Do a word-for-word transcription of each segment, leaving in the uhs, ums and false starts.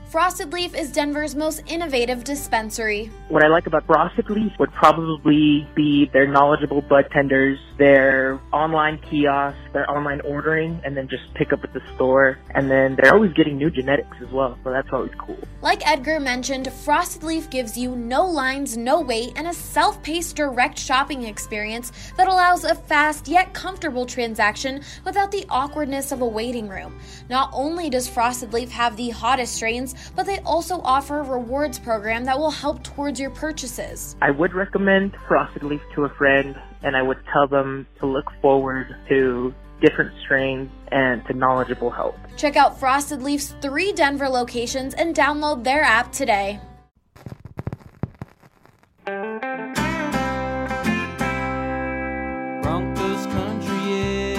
Frosted Leaf is Denver's most innovative dispensary. What I like about Frosted Leaf would probably be their knowledgeable bud tenders, their online kiosks, their online ordering, and then just pick up at the store. And then they're always getting new genetics as well, so that's always cool. Like Edgar mentioned, Frosted Leaf gives you no lines, no wait, and a self-paced direct shopping experience that allows a fast yet comfortable transaction without the awkwardness of a waiting room. Not only does Frosted Leaf have the hottest strains, but they also offer a rewards program that will help towards your purchases. I would recommend Frosted Leaf to a friend, and I would tell them to look forward to different strains and to knowledgeable help. Check out Frosted Leaf's three Denver locations and download their app today. Broncos country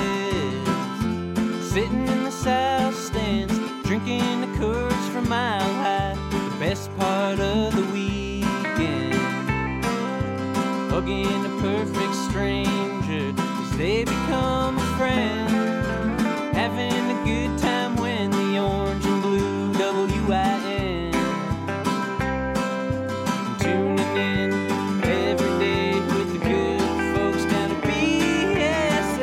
is sitting in the south stands, drinking the Coors from Mile High. The best part of the weekend, hugging a perfect stranger as they become a friend, having a good time when the orange and blue W I N, tuning in every day with the good folks down at B S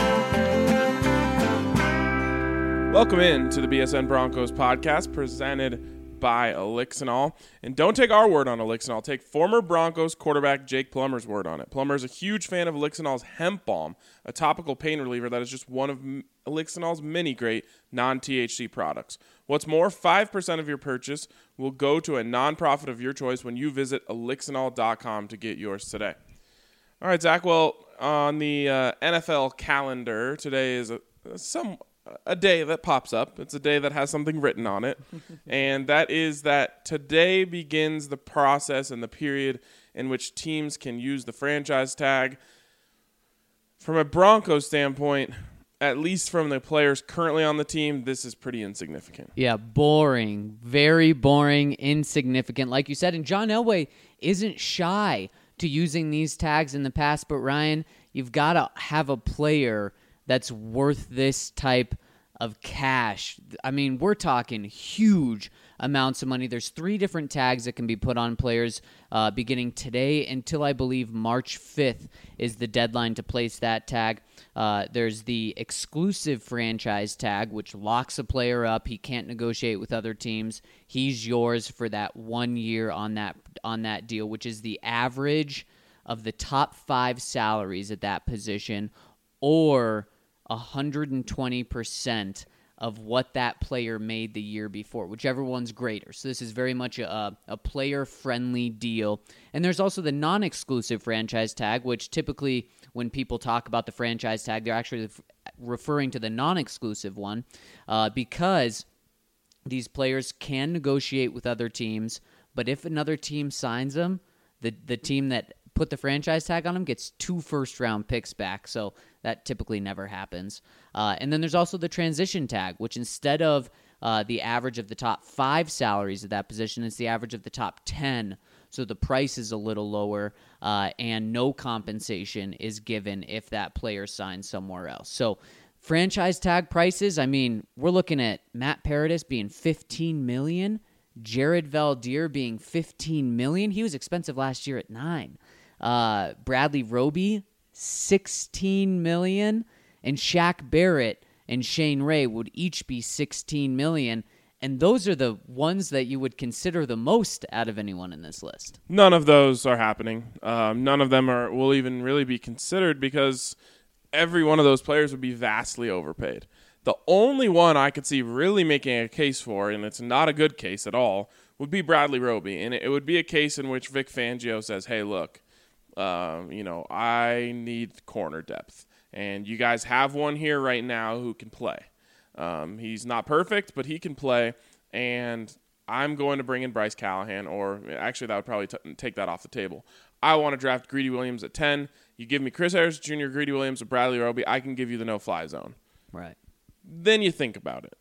N. Welcome in to the B S N Broncos podcast presented by Elixinol. And don't take our word on Elixinol. Take former Broncos quarterback Jake Plummer's word on it. Plummer is a huge fan of Elixinol's Hemp Balm, a topical pain reliever that is just one of Elixinol's many great non-T H C products. What's more, five percent of your purchase will go to a nonprofit of your choice when you visit elixinol dot com to get yours today. All right, Zach. Well, on the uh, N F L calendar, today is a, some... a day that pops up. It's a day that has something written on it, and that is that today begins the process and the period in which teams can use the franchise tag. From a Broncos standpoint, at least from the players currently on the team, this is pretty insignificant. Yeah, boring. Very boring, insignificant. Like you said, and John Elway isn't shy to using these tags in the past, but Ryan, you've got to have a player that's worth this type of cash. I mean, we're talking huge amounts of money. There's three different tags that can be put on players uh, beginning today until I believe March fifth is the deadline to place that tag. Uh, there's the exclusive franchise tag, which locks a player up. He can't negotiate with other teams. He's yours for that one year on that on that deal, which is the average of the top five salaries at that position, or one hundred twenty percent of what that player made the year before, whichever one's greater. So this is very much a, a player-friendly deal. And there's also the non-exclusive franchise tag, which typically when people talk about the franchise tag, they're actually referring to the non-exclusive one uh, because these players can negotiate with other teams, but if another team signs them, the, the team that put the franchise tag on them gets two first-round picks back, so that typically never happens. Uh, and then there's also the transition tag, which instead of uh, the average of the top five salaries at that position, it's the average of the top ten, so the price is a little lower, uh, and no compensation is given if that player signs somewhere else. So franchise tag prices, I mean, we're looking at Matt Paradis being fifteen million dollars, Jared Valdir being fifteen million dollars. He was expensive last year at nine. Uh, Bradley Roby, sixteen million dollars, and Shaq Barrett and Shane Ray would each be sixteen million dollars, and those are the ones that you would consider the most out of anyone in this list. None of those are happening. Um, none of them are will even really be considered because every one of those players would be vastly overpaid. The only one I could see really making a case for, and it's not a good case at all, would be Bradley Roby, and it would be a case in which Vic Fangio says, hey, look, Um, you know, I need corner depth, and you guys have one here right now who can play. Um, he's not perfect, but he can play, and I'm going to bring in Bryce Callahan, or actually that would probably t- take that off the table. I want to draft Greedy Williams at ten. You give me Chris Harris Junior, Greedy Williams, or Bradley Roby, I can give you the no-fly zone. Right. Then you think about it.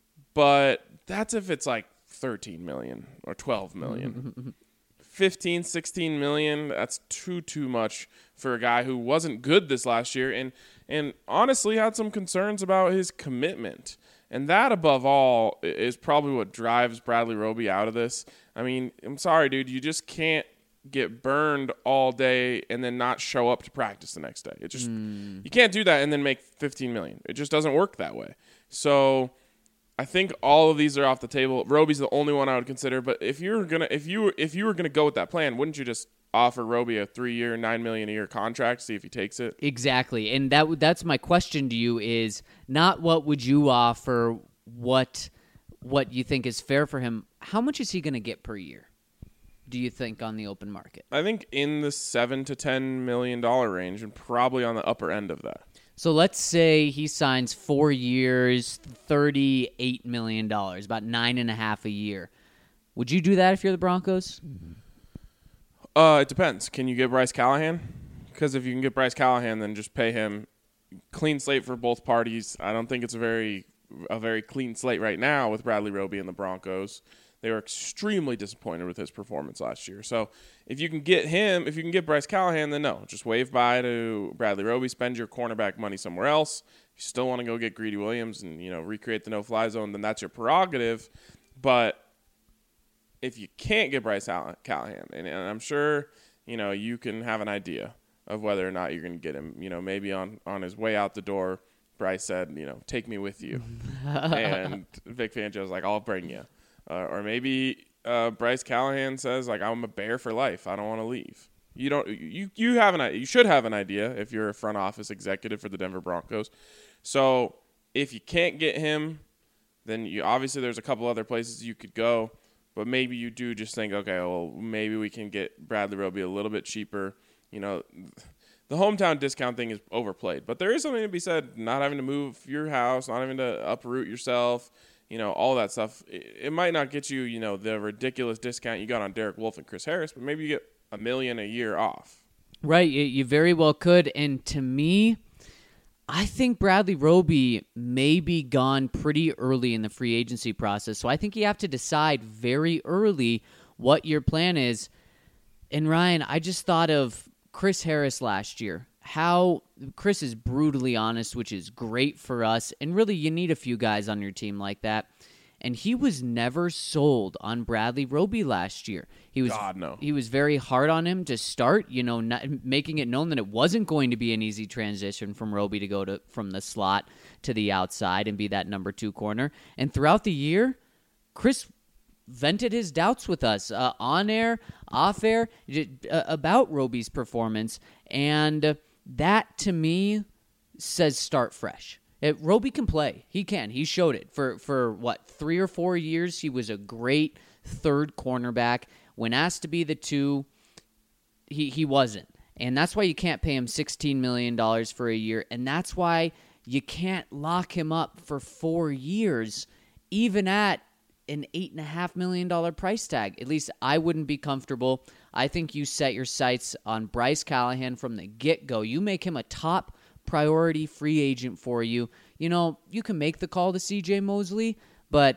But that's if it's like thirteen million dollars or twelve million dollars. fifteen, sixteen million, that's too, too much for a guy who wasn't good this last year and, and honestly had some concerns about his commitment. And that, above all, is probably what drives Bradley Roby out of this. I mean, I'm sorry, dude. You just can't get burned all day and then not show up to practice the next day. It just mm. you can't do that and then make fifteen million dollars. It just doesn't work that way. So I think all of these are off the table. Roby's the only one I would consider. But if you're gonna, if you if you were gonna go with that plan, wouldn't you just offer Roby a three-year, nine million dollars a year contract, see if he takes it? Exactly, and that that's my question to you: is not what would you offer, what what you think is fair for him. How much is he going to get per year, do you think, on the open market? I think in the seven to ten million dollar range, and probably on the upper end of that. So let's say he signs four years, thirty-eight million dollars, about nine and a half a year. Would you do that if you're the Broncos? Uh, it depends. Can you get Bryce Callahan? Because if you can get Bryce Callahan, then just pay him. Clean slate for both parties. I don't think it's a very a very clean slate right now with Bradley Roby and the Broncos. They were extremely disappointed with his performance last year. So if you can get him, if you can get Bryce Callahan, then no. Just wave bye to Bradley Roby. Spend your cornerback money somewhere else. If you still want to go get Greedy Williams and, you know, recreate the no-fly zone, then that's your prerogative. But if you can't get Bryce Callahan, and, and I'm sure, you know, you can have an idea of whether or not you're going to get him. You know, maybe on, on his way out the door, Bryce said, you know, take me with you. And Vic Fangio's like, I'll bring you. Uh, or maybe uh, Bryce Callahan says, like, I'm a Bear for life. I don't want to leave. You don't. You you have an you should have an idea if you're a front office executive for the Denver Broncos. So if you can't get him, then you obviously there's a couple other places you could go. But maybe you do just think, okay, well, maybe we can get Bradley Roby a little bit cheaper. You know, the hometown discount thing is overplayed. But there is something to be said, not having to move your house, not having to uproot yourself, you know, all that stuff. It, it might not get you, you know, the ridiculous discount you got on Derek Wolfe and Chris Harris, but maybe you get a million a year off. Right, you, you very well could. And to me, I think Bradley Roby may be gone pretty early in the free agency process. So I think you have to decide very early what your plan is. And Ryan, I just thought of Chris Harris last year. How Chris is brutally honest, which is great for us. And really, you need a few guys on your team like that. And he was never sold on Bradley Roby last year. He was God, no. He was very hard on him to start, you know, not, making it known that it wasn't going to be an easy transition from Roby to go to from the slot to the outside and be that number two corner. And throughout the year, Chris vented his doubts with us uh, on air, off air, uh, about Roby's performance. And uh, that, to me, says start fresh. It, Roby can play. He can. He showed it. For, for what, three or four years, he was a great third cornerback. When asked to be the two, he, he wasn't. And that's why you can't pay him sixteen million dollars for a year. And that's why you can't lock him up for four years, even at an eight point five million dollars price tag. At least I wouldn't be comfortable. I think you set your sights on Bryce Callahan from the get-go. You make him a top priority free agent for you. You know, you can make the call to C J Mosley, but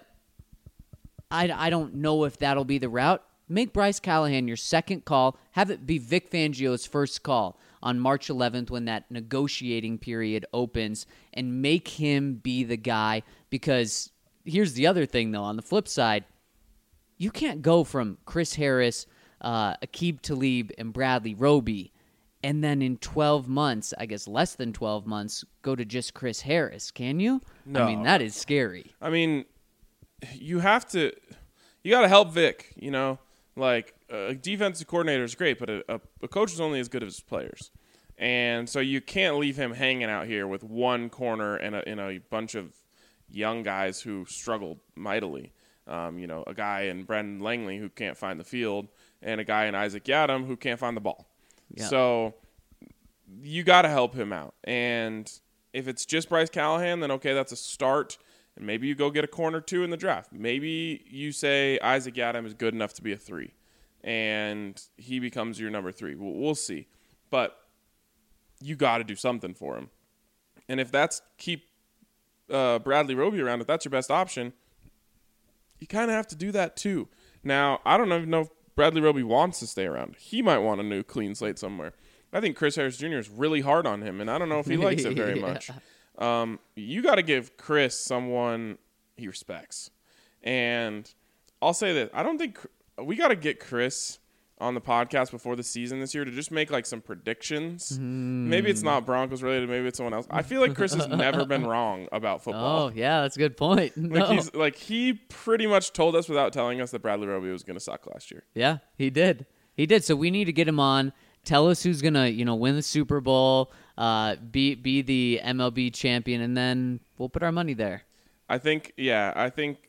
I, I don't know if that'll be the route. Make Bryce Callahan your second call. Have it be Vic Fangio's first call on March eleventh when that negotiating period opens, and make him be the guy. Because here's the other thing, though. On the flip side, you can't go from Chris Harris, uh, Aqib Talib, and Bradley Roby, and then in twelve months, I guess less than twelve months, go to just Chris Harris, can you? No. I mean, that is scary. I mean, you have to – you got to help Vic, you know. Like, a defensive coordinator is great, but a, a, a coach is only as good as his players. And so you can't leave him hanging out here with one corner and a, and a bunch of young guys who struggled mightily. Um, you know, a guy in Brendan Langley who can't find the field and a guy in Isaac Yadam who can't find the ball. Yep. So you got to help him out. And if it's just Bryce Callahan, then okay, that's a start. And maybe you go get a corner two in the draft. Maybe you say Isaac Yadam is good enough to be a three, and he becomes your number three. We'll, we'll see. But you got to do something for him. And if that's keep uh, Bradley Roby around, if that's your best option, you kind of have to do that too. Now, I don't even know if Bradley Roby wants to stay around. He might want a new clean slate somewhere. I think Chris Harris Junior is really hard on him, and I don't know if he likes it very yeah. much. Um, you got to give Chris someone he respects. And I'll say that I don't think we got to get Chris on the podcast before the season this year to just make like some predictions. Mm. Maybe it's not Broncos related. Maybe it's someone else. I feel like Chris has never been wrong about football. Oh yeah, that's a good point. No. Like he's like he pretty much told us without telling us that Bradley Roby was going to suck last year. Yeah, he did. He did. So we need to get him on. Tell us who's gonna, you know, win the Super Bowl, uh, be be the M L B champion, and then we'll put our money there. I think, yeah, I think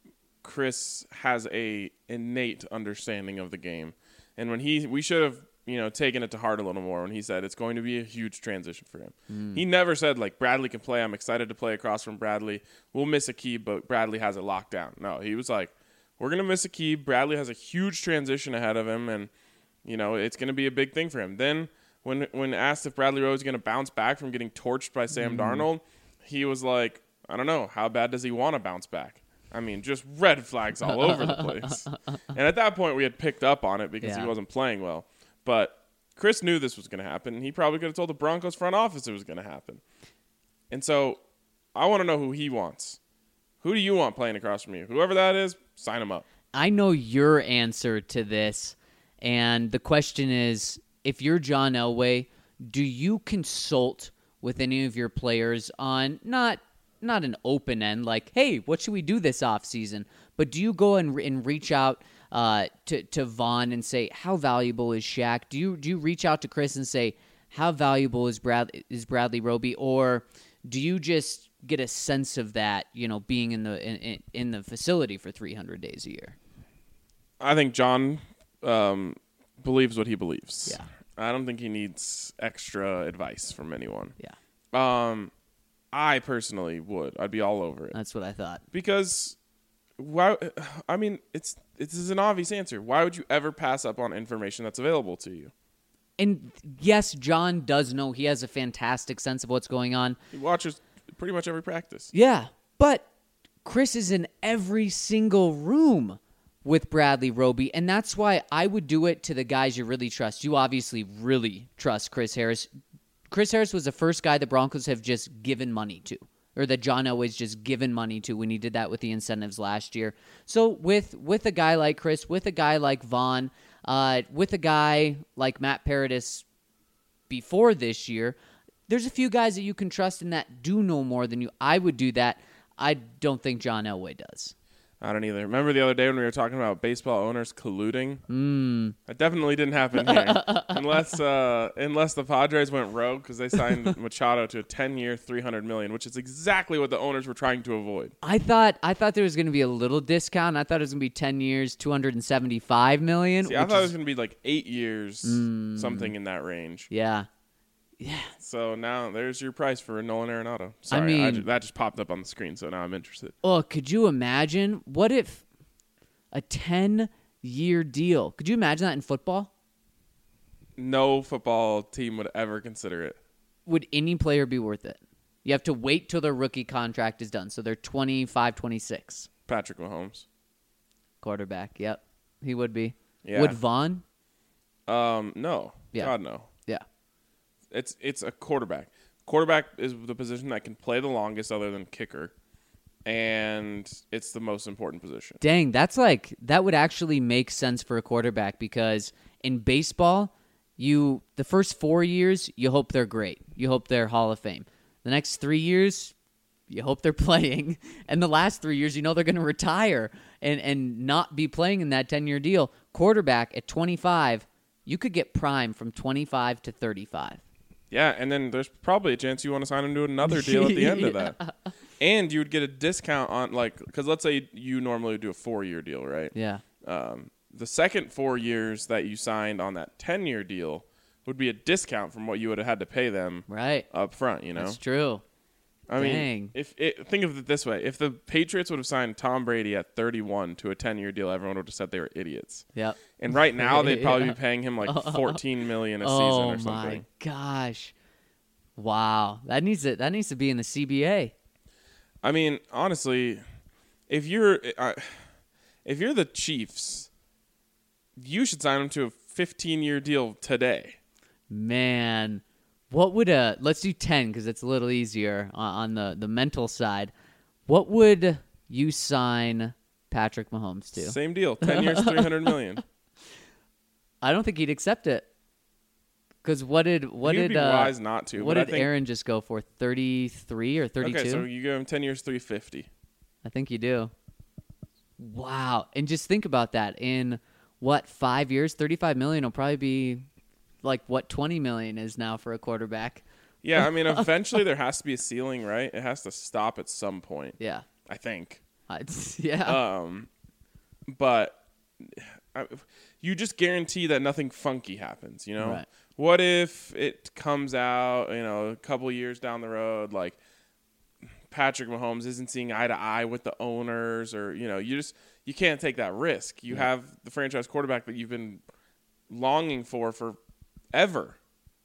Chris has a innate understanding of the game. And when he, we should have, you know, taken it to heart a little more when he said it's going to be a huge transition for him. Mm. He never said, like, Bradley can play. I'm excited to play across from Bradley. We'll miss Aqib, but Bradley has it locked down. No, he was like, we're going to miss Aqib. Bradley has a huge transition ahead of him, and, you know, it's going to be a big thing for him. Then when when asked if Bradley Roby is going to bounce back from getting torched by Sam mm. Darnold, he was like, I don't know. How bad does he want to bounce back? I mean, just red flags all over the place. And at that point, we had picked up on it because yeah. he wasn't playing well. But Chris knew this was going to happen. He probably could have told the Broncos front office it was going to happen. And so I want to know who he wants. Who do you want playing across from you? Whoever that is, sign him up. I know your answer to this. And the question is, if you're John Elway, do you consult with any of your players on not – not an open end, like, hey, what should we do this offseason? But do you go and, and reach out uh, to, to Vaughn and say, how valuable is Shaq? Do you do you reach out to Chris and say, how valuable is Brad is Bradley Roby? Or do you just get a sense of that, you know, being in the in, in the facility for three hundred days a year? I think John um, believes what he believes. Yeah. I don't think he needs extra advice from anyone. Yeah. Um. I personally would. I'd be all over it. That's what I thought. Because, why? I mean, it's this is an obvious answer. Why would you ever pass up on information that's available to you? And yes, John does know. He has a fantastic sense of what's going on. He watches pretty much every practice. Yeah, but Chris is in every single room with Bradley Roby, and that's why I would do it to the guys you really trust. You obviously really trust Chris Harris. Chris Harris was the first guy the Broncos have just given money to, or that John Elway's just given money to when he did that with the incentives last year. So with with a guy like Chris, with a guy like Vaughn, uh, with a guy like Matt Paradis before this year, there's a few guys that you can trust in that do know more than you. I would do that. I don't think John Elway does. I don't either. Remember the other day when we were talking about baseball owners colluding? Mm. That definitely didn't happen here. unless uh, unless the Padres went rogue because they signed Machado to a ten-year, three hundred million dollars, which is exactly what the owners were trying to avoid. I thought I thought there was going to be a little discount. I thought it was going to be ten years, two hundred seventy-five million dollars. See, I thought is... it was going to be like eight years, mm. something in that range. Yeah. Yeah. So now there's your price for Nolan Arenado. Sorry, I mean, I just, that just popped up on the screen, so now I'm interested. Oh, could you imagine? What if a ten-year deal? Could you imagine that in football? No football team would ever consider it. Would any player be worth it? You have to wait till their rookie contract is done, so they're twenty-five, twenty-six. Patrick Mahomes. Quarterback, yep. He would be. Yeah. Would Vaughn? Um, no. Yeah. God, no. Yeah. It's it's a quarterback. Quarterback is the position that can play the longest other than kicker, and it's the most important position. Dang, that's like that would actually make sense for a quarterback because in baseball, you the first four years you hope they're great. You hope they're Hall of Fame. The next three years, you hope they're playing, and the last three years, you know they're going to retire and and not be playing in that ten-year deal. Quarterback at twenty-five, you could get prime from twenty-five to thirty-five. Yeah, and then there's probably a chance you want to sign him to another deal at the end yeah. of that. And you would get a discount on, like, because let's say you normally do a four-year deal, right? Yeah. Um, the second four years that you signed on that ten-year deal would be a discount from what you would have had to pay them right up front, you know? That's true. I Dang. mean, if it, think of it this way. If the Patriots would have signed Tom Brady at thirty-one to a ten-year deal, everyone would have said they were idiots. Yep. And right now, they'd probably yeah. be paying him like fourteen million dollars a oh season or something. Oh, my gosh. Wow. That needs to, that needs to be in the C B A. I mean, honestly, if you're uh, if you're the Chiefs, you should sign him to a fifteen-year deal today. Man. What would a let's do ten because it's a little easier on, on the, the mental side. What would you sign Patrick Mahomes to? Same deal. ten years, three hundred million dollars. I don't think he'd accept it. Because what did what He'd did be uh, wise not to. what but I did think, Aaron just go for? thirty-three or thirty-two? Okay, so you give him ten years, three fifty. I think you do. Wow. And just think about that. In what, five years, thirty-five million will probably be like what twenty million is now for a quarterback. Yeah, I mean, eventually there has to be a ceiling, right? It has to stop at some point. Yeah. I think. Uh, yeah. Um, but I, you just guarantee that nothing funky happens, you know? Right. What if it comes out, you know, a couple years down the road, like Patrick Mahomes isn't seeing eye to eye with the owners, or, you know, you just, you can't take that risk. You Yeah. have the franchise quarterback that you've been longing for forever.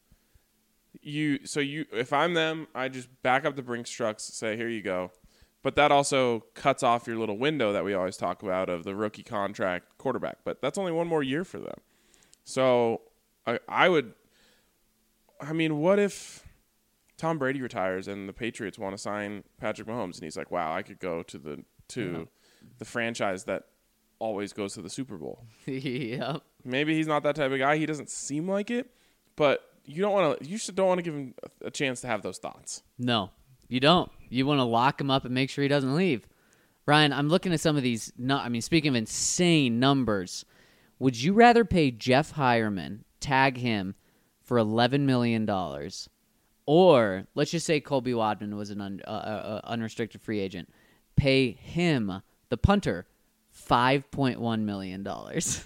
You, so you, if I'm them, I just back up the Brinks trucks, say, here you go. But that also cuts off your little window that we always talk about of the rookie contract quarterback. But that's only one more year for them. So I, I would, I mean, what if Tom Brady retires and the Patriots want to sign Patrick Mahomes, and he's like, wow, I could go to the to yeah. the franchise that always goes to the Super Bowl. Yeah. Maybe he's not that type of guy. He doesn't seem like it, but you don't want to. You should don't want to give him a chance to have those thoughts. No, you don't. You want to lock him up and make sure he doesn't leave. Ryan, I'm looking at some of these. No, I mean, speaking of insane numbers, would you rather pay Jeff Hireman, tag him for eleven million dollars, or let's just say Colby Wadman was an un, uh, uh, unrestricted free agent, pay him, the punter, five point one million dollars?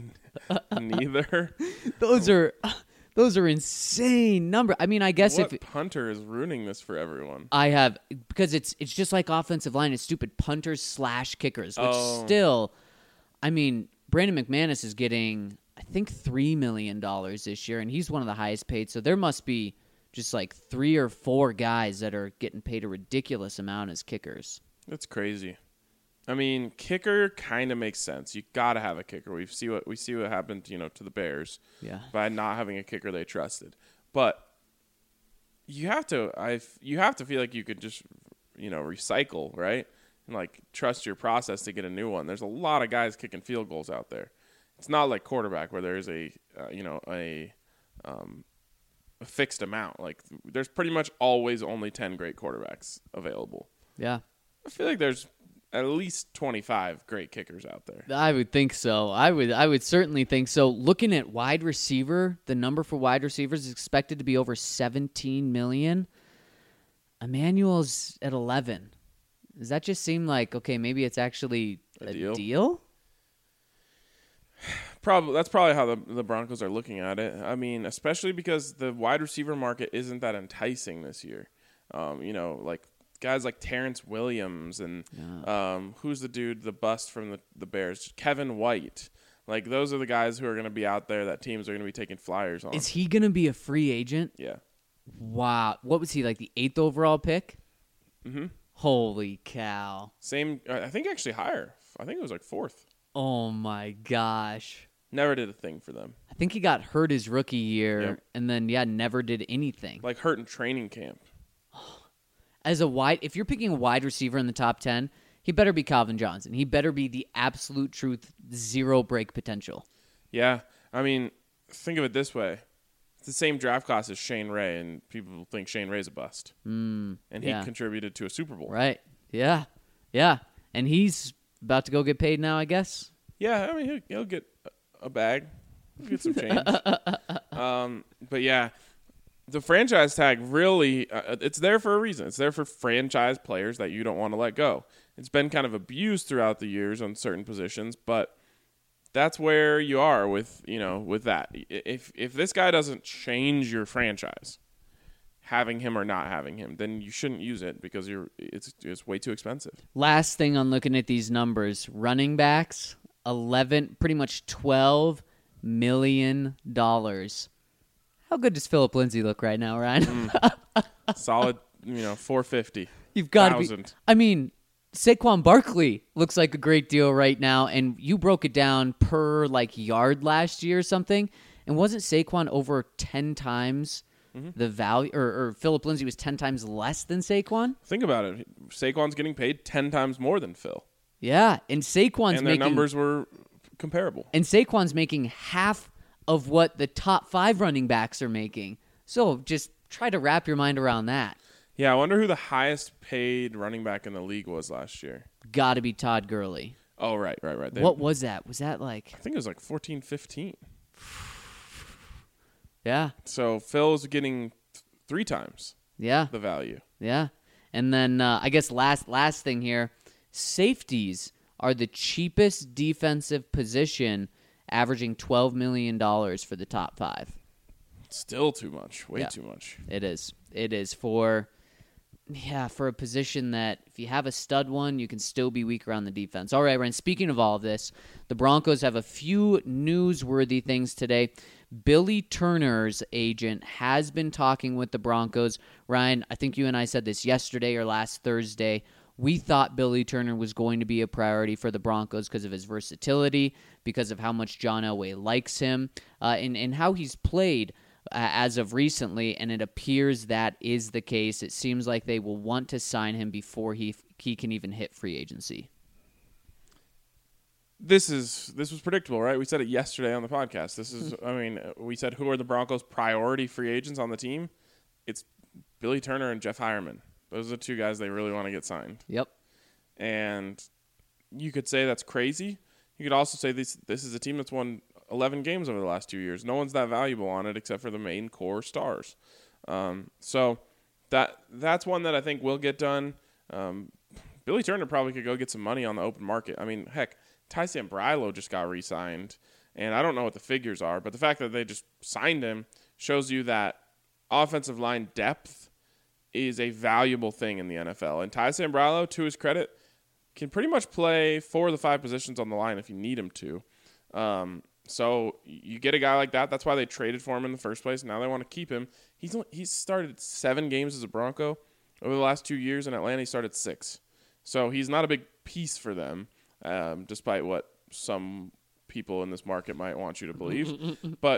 Neither. Those are those are insane number. I mean, I guess what if punter is ruining this for everyone. I have, because it's it's just like offensive line. It's stupid punters slash kickers, which Oh. still, I mean, Brandon McManus is getting, I think, three million dollars this year, and he's one of the highest paid. So there must be just like three or four guys that are getting paid a ridiculous amount as kickers. That's crazy. I mean, kicker kind of makes sense. You got to have a kicker. We see what we see what happened, you know, to the Bears Yeah. by not having a kicker they trusted. But you have to, I, you have to feel like you could just, you know, recycle, right, and like trust your process to get a new one. There's a lot of guys kicking field goals out there. It's not like quarterback where there's a, uh, you know, a, um, a fixed amount. Like there's pretty much always only ten great quarterbacks available. Yeah. I feel like there's at least twenty-five great kickers out there. I would think so. I would I would certainly think so. Looking at wide receiver, the number for wide receivers is expected to be over seventeen million. Emmanuel's at eleven. Does that just seem like, okay, maybe it's actually A a, deal? deal? Probably that's probably how the the Broncos are looking at it. I mean, especially because the wide receiver market isn't that enticing this year. Um, you know, like guys like Terrence Williams and Yeah. um, who's the dude, the bust from the, the Bears, Kevin White. Like those are the guys who are going to be out there that teams are going to be taking flyers on. Is he going to be a free agent? Yeah. Wow. What was he, like the eighth overall pick? Mm-hmm. Holy cow. Same. I think actually higher. I think it was like fourth. Oh, my gosh. Never did a thing for them. I think he got hurt his rookie year Yep. and then, yeah, never did anything. Like hurt in training camp. As a wide, if you're picking a wide receiver in the top ten, he better be Calvin Johnson. He better be the absolute truth, zero break potential. Yeah. I mean, think of it this way. It's the same draft class as Shane Ray, and people think Shane Ray's a bust. Mm, And he yeah. contributed to a Super Bowl. Right. Yeah. Yeah. And he's about to go get paid now, I guess. Yeah, I mean, he'll, he'll get a bag. He'll get some change. um, but, yeah, the franchise tag really, uh, it's there for a reason. It's there for franchise players that you don't want to let go. It's been kind of abused throughout the years on certain positions, but that's where you are with, you know, with that. If if this guy doesn't change your franchise, having him or not having him, then you shouldn't use it because you're it's it's way too expensive. Last thing on looking at these numbers, running backs, eleven, pretty much twelve million dollars. How good does Philip Lindsay look right now, Ryan? Mm. Solid, you know, four fifty. You've got to be. Thousand. I mean, Saquon Barkley looks like a great deal right now, and you broke it down per like yard last year or something. And wasn't Saquon over ten times Mm-hmm. the value, or, or Philip Lindsay was ten times less than Saquon. Think about it. Saquon's getting paid ten times more than Phil. Yeah, and Saquon's and their making numbers were comparable. And Saquon's making half of what the top five running backs are making. So just try to wrap your mind around that. Yeah, I wonder who the highest paid running back in the league was last year. Got to be Todd Gurley. Oh, right, right, right. They, What was that? Was that like... I think it was like fourteen, fifteen. Yeah, So Phil's getting th- three times yeah, the value. yeah. And then uh, I guess last last thing here, safeties are the cheapest defensive position, averaging twelve million dollars for the top five. Still too much. Way Yeah. too much. It is. It is for... Yeah, for a position that if you have a stud one, you can still be weaker on the defense. All right, Ryan, speaking of all of this, the Broncos have a few newsworthy things today. Billy Turner's agent has been talking with the Broncos. Ryan, I think you and I said this yesterday or last Thursday. We thought Billy Turner was going to be a priority for the Broncos because of his versatility, because of how much John Elway likes him, uh, and, and how he's played Uh, as of recently, and it appears that is the case. It seems like they will want to sign him before he he can even hit free agency. This is this was predictable, right? We said it yesterday on the podcast. This is, I mean, we said who are the Broncos' priority free agents on the team? It's Billy Turner and Jeff Hireman. Those are the two guys they really want to get signed. Yep. And you could say that's crazy. You could also say this this is a team that's won eleven games over the last two years. No one's that valuable on it except for the main core stars. Um, so that that's one that I think will get done. Um, Billy Turner probably could go get some money on the open market. I mean, heck, Ty Sambrailo just got re-signed, and I don't know what the figures are, but the fact that they just signed him shows you that offensive line depth is a valuable thing in the N F L. And Ty Sambrailo, to his credit, can pretty much play four of the five positions on the line if you need him to. Um, So you get a guy like that. That's why they traded for him in the first place. Now they want to keep him. He's he's started seven games as a Bronco over the last two years. In Atlanta, he started six. So he's not a big piece for them, um, despite what some people in this market might want you to believe. But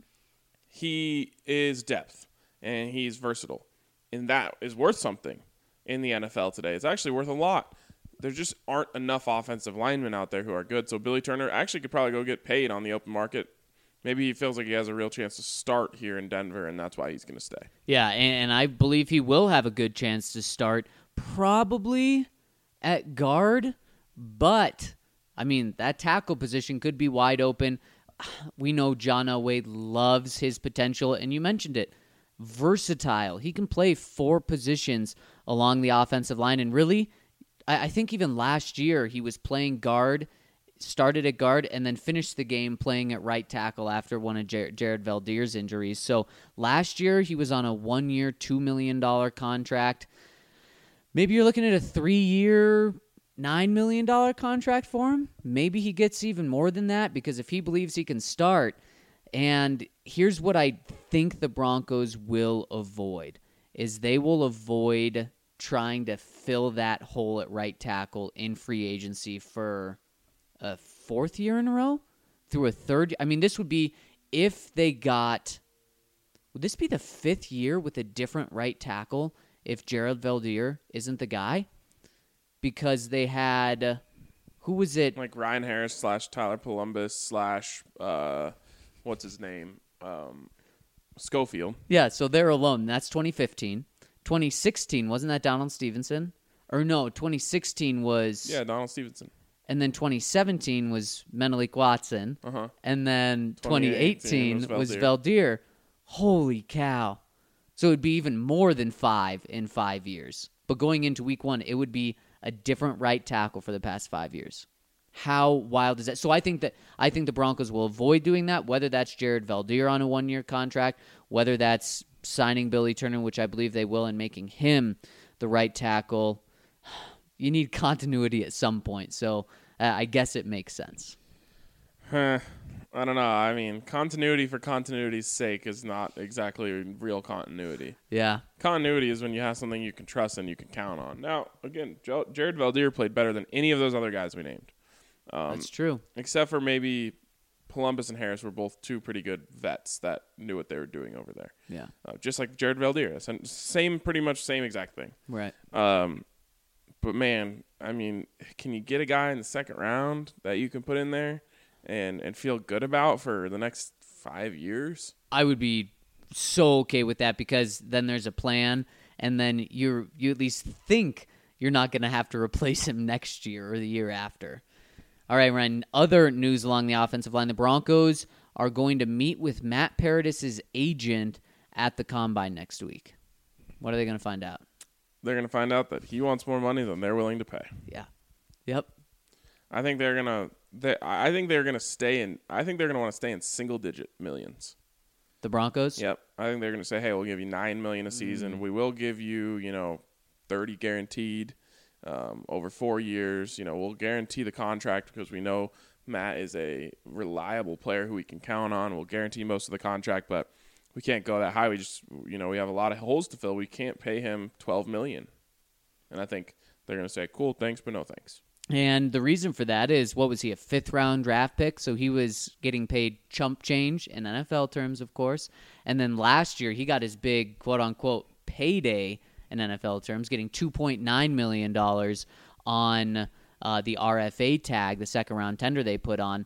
he is depth, and he's versatile. And that is worth something in the N F L today. It's actually worth a lot. There just aren't enough offensive linemen out there who are good. So Billy Turner actually could probably go get paid on the open market. Maybe he feels like he has a real chance to start here in Denver, and that's why he's going to stay. Yeah, and, and I believe he will have a good chance to start, probably at guard. But, I mean, that tackle position could be wide open. We know John Elway loves his potential, and you mentioned it. Versatile. He can play four positions along the offensive line, and really, I think even last year he was playing guard, started at guard, and then finished the game playing at right tackle after one of Jared, Jared Valdir's injuries. So last year he was on a one-year, two million dollars contract. Maybe you're looking at a three-year, nine million dollars contract for him. Maybe he gets even more than that because if he believes he can start. And here's what I think the Broncos will avoid, is they will avoid trying to fill that hole at right tackle in free agency for a fourth year in a row through a third. I mean, this would be if they got, would this be the fifth year with a different right tackle if Jared Valdir isn't the guy? Because they had, who was it? Like Ryan Harris slash Tyler Columbus slash, uh, what's his name? Um, Schofield. Yeah, so they're alone. That's twenty fifteen. twenty sixteen, wasn't that Donald Stevenson? Or no, twenty sixteen was... Yeah, Donald Stevenson. And then twenty seventeen was Menelik Watson. Uh-huh. And then twenty eighteen, was was Valdir. Valdir. Holy cow. So it would be even more than five in five years. But going into week one, it would be a different right tackle for the past five years. How wild is that? So I think that I think the Broncos will avoid doing that, whether that's Jared Valdir on a one-year contract, whether that's signing Billy Turner, which I believe they will, and making him the right tackle. You need continuity at some point, so uh, I guess it makes sense. Huh. I don't know. I mean, continuity for continuity's sake is not exactly real continuity. Yeah. Continuity is when you have something you can trust and you can count on. Now, again, Jo- Jared Valdir played better than any of those other guys we named. Um, That's true. Except for maybe Columbus and Harris were both two pretty good vets that knew what they were doing over there. Yeah. Uh, just like Jared Valdir. Same, pretty much same exact thing. Right. Um, but, man, I mean, can you get a guy in the second round that you can put in there and, and feel good about for the next five years? I would be so okay with that because then there's a plan, and then you're you at least think you're not going to have to replace him next year or the year after. All right, Ryan, other news along the offensive line. The Broncos are going to meet with Matt Paradis' agent at the Combine next week. What are they going to find out? They're going to find out that he wants more money than they're willing to pay. Yeah. Yep. I think they're going to they, I think they're going to stay in I think they're going to want to stay in single-digit millions. The Broncos? Yep. I think they're going to say, "Hey, we'll give you nine million dollars a season. Mm. We will give you, you know, thirty guaranteed um, over four years. You know, we'll guarantee the contract because we know Matt is a reliable player who we can count on. We'll guarantee most of the contract, but we can't go that high. We just, you know, we have a lot of holes to fill. We can't pay him twelve million dollars." And I think they're going to say, "Cool, thanks, but no thanks." And the reason for that is, what was he, a fifth-round draft pick? So he was getting paid chump change in N F L terms, of course. And then last year, he got his big, quote-unquote, payday in N F L terms, getting two point nine million dollars on uh, the R F A tag, the second-round tender they put on.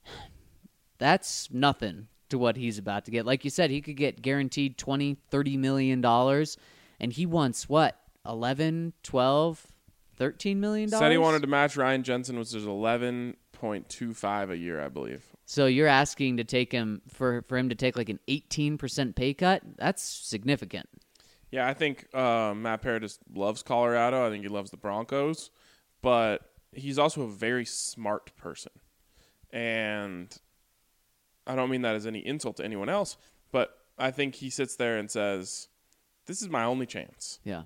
That's nothing to what he's about to get. Like you said, he could get guaranteed twenty, thirty million dollars, and he wants, what, eleven, twelve, thirteen million dollars? Said he wanted to match Ryan Jensen, which is eleven point two five a year, I believe. So you're asking to take him for for him to take like an eighteen percent pay cut? That's significant. Yeah, I think uh, Matt Paradis loves Colorado. I think he loves the Broncos, but he's also a very smart person. And I don't mean that as any insult to anyone else, but I think he sits there and says, "This is my only chance." Yeah.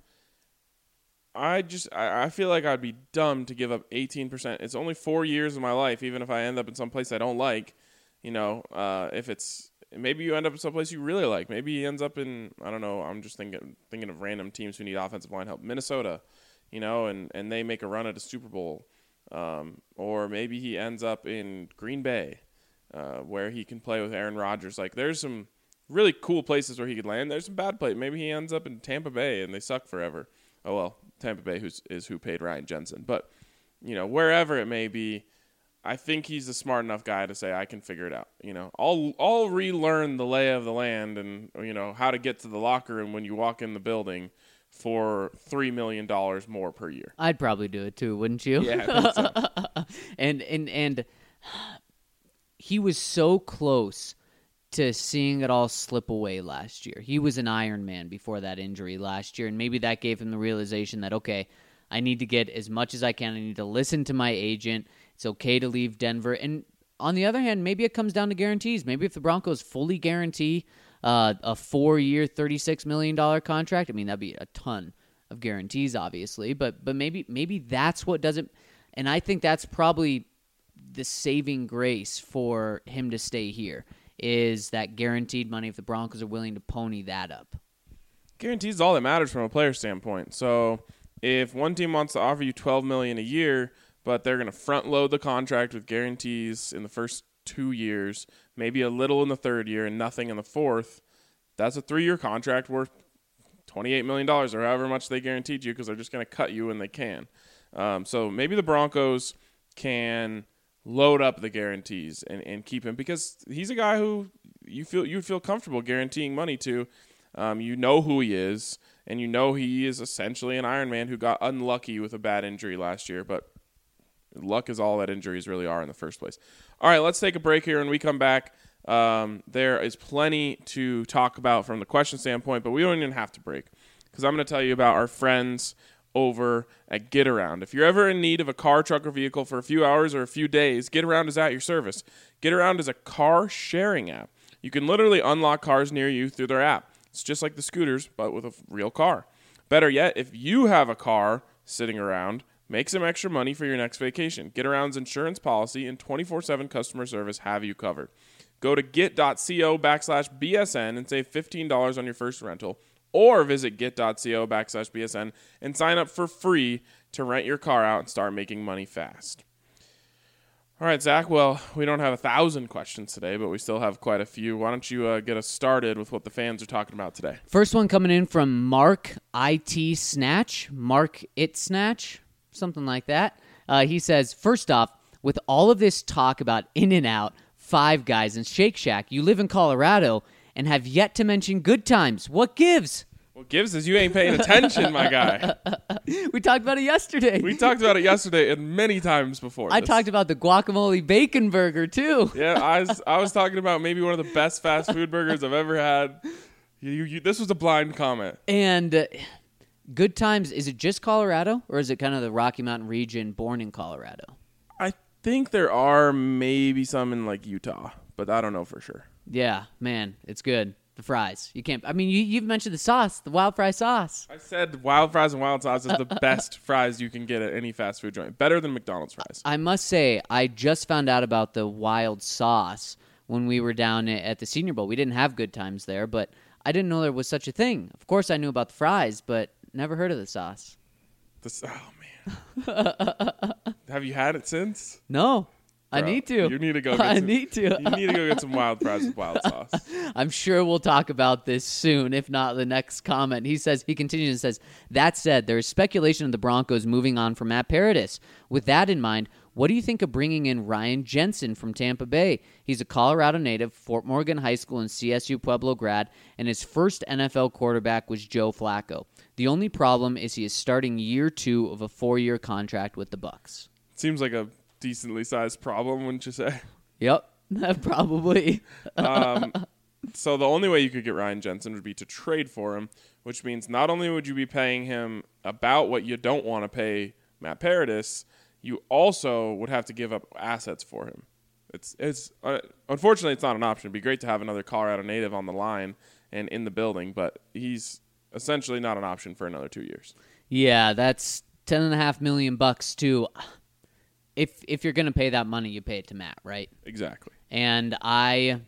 I just I, I feel like I'd be dumb to give up eighteen percent. It's only four years of my life, even if I end up in some place I don't like. You know, uh, if it's maybe you end up in some place you really like. Maybe he ends up in, I don't know, I'm just thinking thinking of random teams who need offensive line help. Minnesota, you know, and, and they make a run at a Super Bowl. Um, or maybe he ends up in Green Bay, uh, where he can play with Aaron Rodgers. Like, there's some really cool places where he could land. There's some bad places. Maybe he ends up in Tampa Bay and they suck forever. Oh, well, Tampa Bay who's, is who paid Ryan Jensen. But, you know, wherever it may be, I think he's a smart enough guy to say, I can figure it out. You know, I'll I'll relearn the lay of the land and, you know, how to get to the locker room when you walk in the building for three million dollars more per year. I'd probably do it too, wouldn't you? Yeah, I think so. and, and, and he was so close to seeing it all slip away last year. He was an Iron Man before that injury last year, and maybe that gave him the realization that, okay, I need to get as much as I can. I need to listen to my agent. It's okay to leave Denver. And on the other hand, maybe it comes down to guarantees. Maybe if the Broncos fully guarantee uh, a four-year, thirty-six million dollars contract, I mean, that'd be a ton of guarantees, obviously, but but maybe maybe that's what does it. And I think that's probably the saving grace for him to stay here, is that guaranteed money if the Broncos are willing to pony that up. Guarantees is all that matters from a player standpoint. So if one team wants to offer you twelve million dollars a year, but they're going to front load the contract with guarantees in the first two years, maybe a little in the third year and nothing in the fourth, that's a three-year contract worth twenty-eight million dollars or however much they guaranteed you, because they're just going to cut you when they can. Um, so maybe the Broncos can load up the guarantees and, and keep him, because he's a guy who you feel you feel comfortable guaranteeing money to. Um, you know who he is, and you know he is essentially an Iron Man who got unlucky with a bad injury last year, but luck is all that injuries really are in the first place. All right, let's take a break here. When we come back, um, there is plenty to talk about from the question standpoint, but we don't even have to break, because I'm going to tell you about our friends over at GetAround. If you're ever in need of a car, truck, or vehicle for a few hours or a few days, GetAround is at your service. GetAround is a car sharing app. You can literally unlock cars near you through their app. It's just like the scooters, but with a real car. Better yet, if you have a car sitting around, make some extra money for your next vacation. GetAround's insurance policy and twenty-four seven customer service have you covered. Go to get.co backslash BSN and save fifteen dollars on your first rental, or visit get.co backslash BSN and sign up for free to rent your car out and start making money fast. All right, Zach. Well, we don't have a thousand questions today, but we still have quite a few. Why don't you uh, get us started with what the fans are talking about today? First one coming in from Mark I T Snatch, Mark It Snatch, something like that. Uh, he says, first off, with all of this talk about In-N-Out, Five Guys, and Shake Shack, you live in Colorado and have yet to mention Good Times. What gives? What gives is you ain't paying attention, my guy. We talked about it yesterday. We talked about it yesterday and many times before. I this. talked about the guacamole bacon burger, too. Yeah, I was, I was talking about maybe one of the best fast food burgers I've ever had. You, you, you, this was a blind comment. And uh, Good Times, is it just Colorado, or is it kind of the Rocky Mountain region born in Colorado? I think there are maybe some in like Utah, but I don't know for sure. Yeah, man, it's good. The fries. You can't, I mean, you, you've mentioned the sauce, the wild fry sauce. I said wild fries and wild sauce is the best fries you can get at any fast food joint. Better than McDonald's fries. I must say, I just found out about the wild sauce when we were down at the Senior Bowl. We didn't have Good Times there, but I didn't know there was such a thing. Of course, I knew about the fries, but never heard of the sauce. This, oh, man. Have you had it since? No. I Bro, need to. You need to go get I some, need to. You need to go get some wild fries with wild sauce. I'm sure we'll talk about this soon, if not the next comment. He says, he continues and says, that said, there is speculation of the Broncos moving on from Matt Paradis. With that in mind, what do you think of bringing in Ryan Jensen from Tampa Bay? He's a Colorado native, Fort Morgan High School and C S U Pueblo grad, and his first N F L quarterback was Joe Flacco. The only problem is he is starting year two of a four-year contract with the Bucs. Seems like a decently sized problem, wouldn't you say? Yep, probably. um, so the only way you could get Ryan Jensen would be to trade for him, which means not only would you be paying him about what you don't want to pay Matt Paradis, you also would have to give up assets for him. It's it's uh, unfortunately it's not an option. It'd be great to have another Colorado native on the line and in the building, but he's essentially not an option for another two years. Yeah, that's ten and a half million bucks too. If if you're going to pay that money, you pay it to Matt, right? Exactly. And I,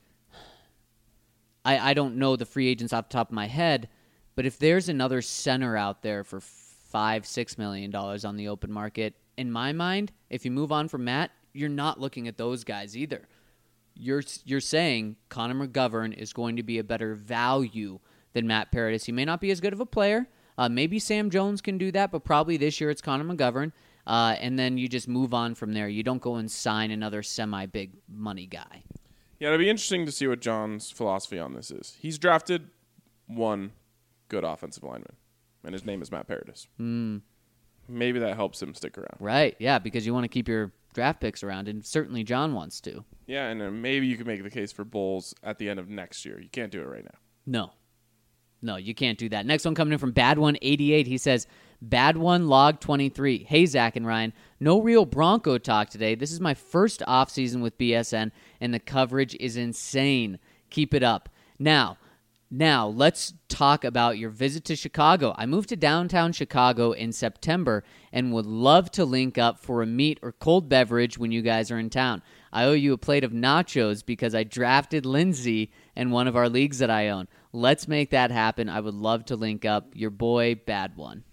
I, I don't know the free agents off the top of my head, but if there's another center out there for five, six million dollars on the open market, in my mind, if you move on from Matt, you're not looking at those guys either. You're you're saying Connor McGovern is going to be a better value than Matt Paradis. He may not be as good of a player. Uh, maybe Sam Jones can do that, but probably this year it's Connor McGovern. Uh, and then you just move on from there. You don't go and sign another semi-big money guy. Yeah, it'll be interesting to see what John's philosophy on this is. He's drafted one good offensive lineman, and his name is Matt Paradis. Mm. Maybe that helps him stick around. Right, yeah, because you want to keep your draft picks around, and certainly John wants to. Yeah, and then maybe you can make the case for Bulls at the end of next year. You can't do it right now. No. No, you can't do that. Next one coming in from Bad One eighty-eight. He says, Bad One Log twenty-three. Hey, Zach and Ryan. No real Bronco talk today. This is my first offseason with B S N, and the coverage is insane. Keep it up. Now, now let's talk about your visit to Chicago. I moved to downtown Chicago in September and would love to link up for a meat or cold beverage when you guys are in town. I owe you a plate of nachos because I drafted Lindsay in one of our leagues that I own. Let's make that happen. I would love to link up. Your boy, Bad One.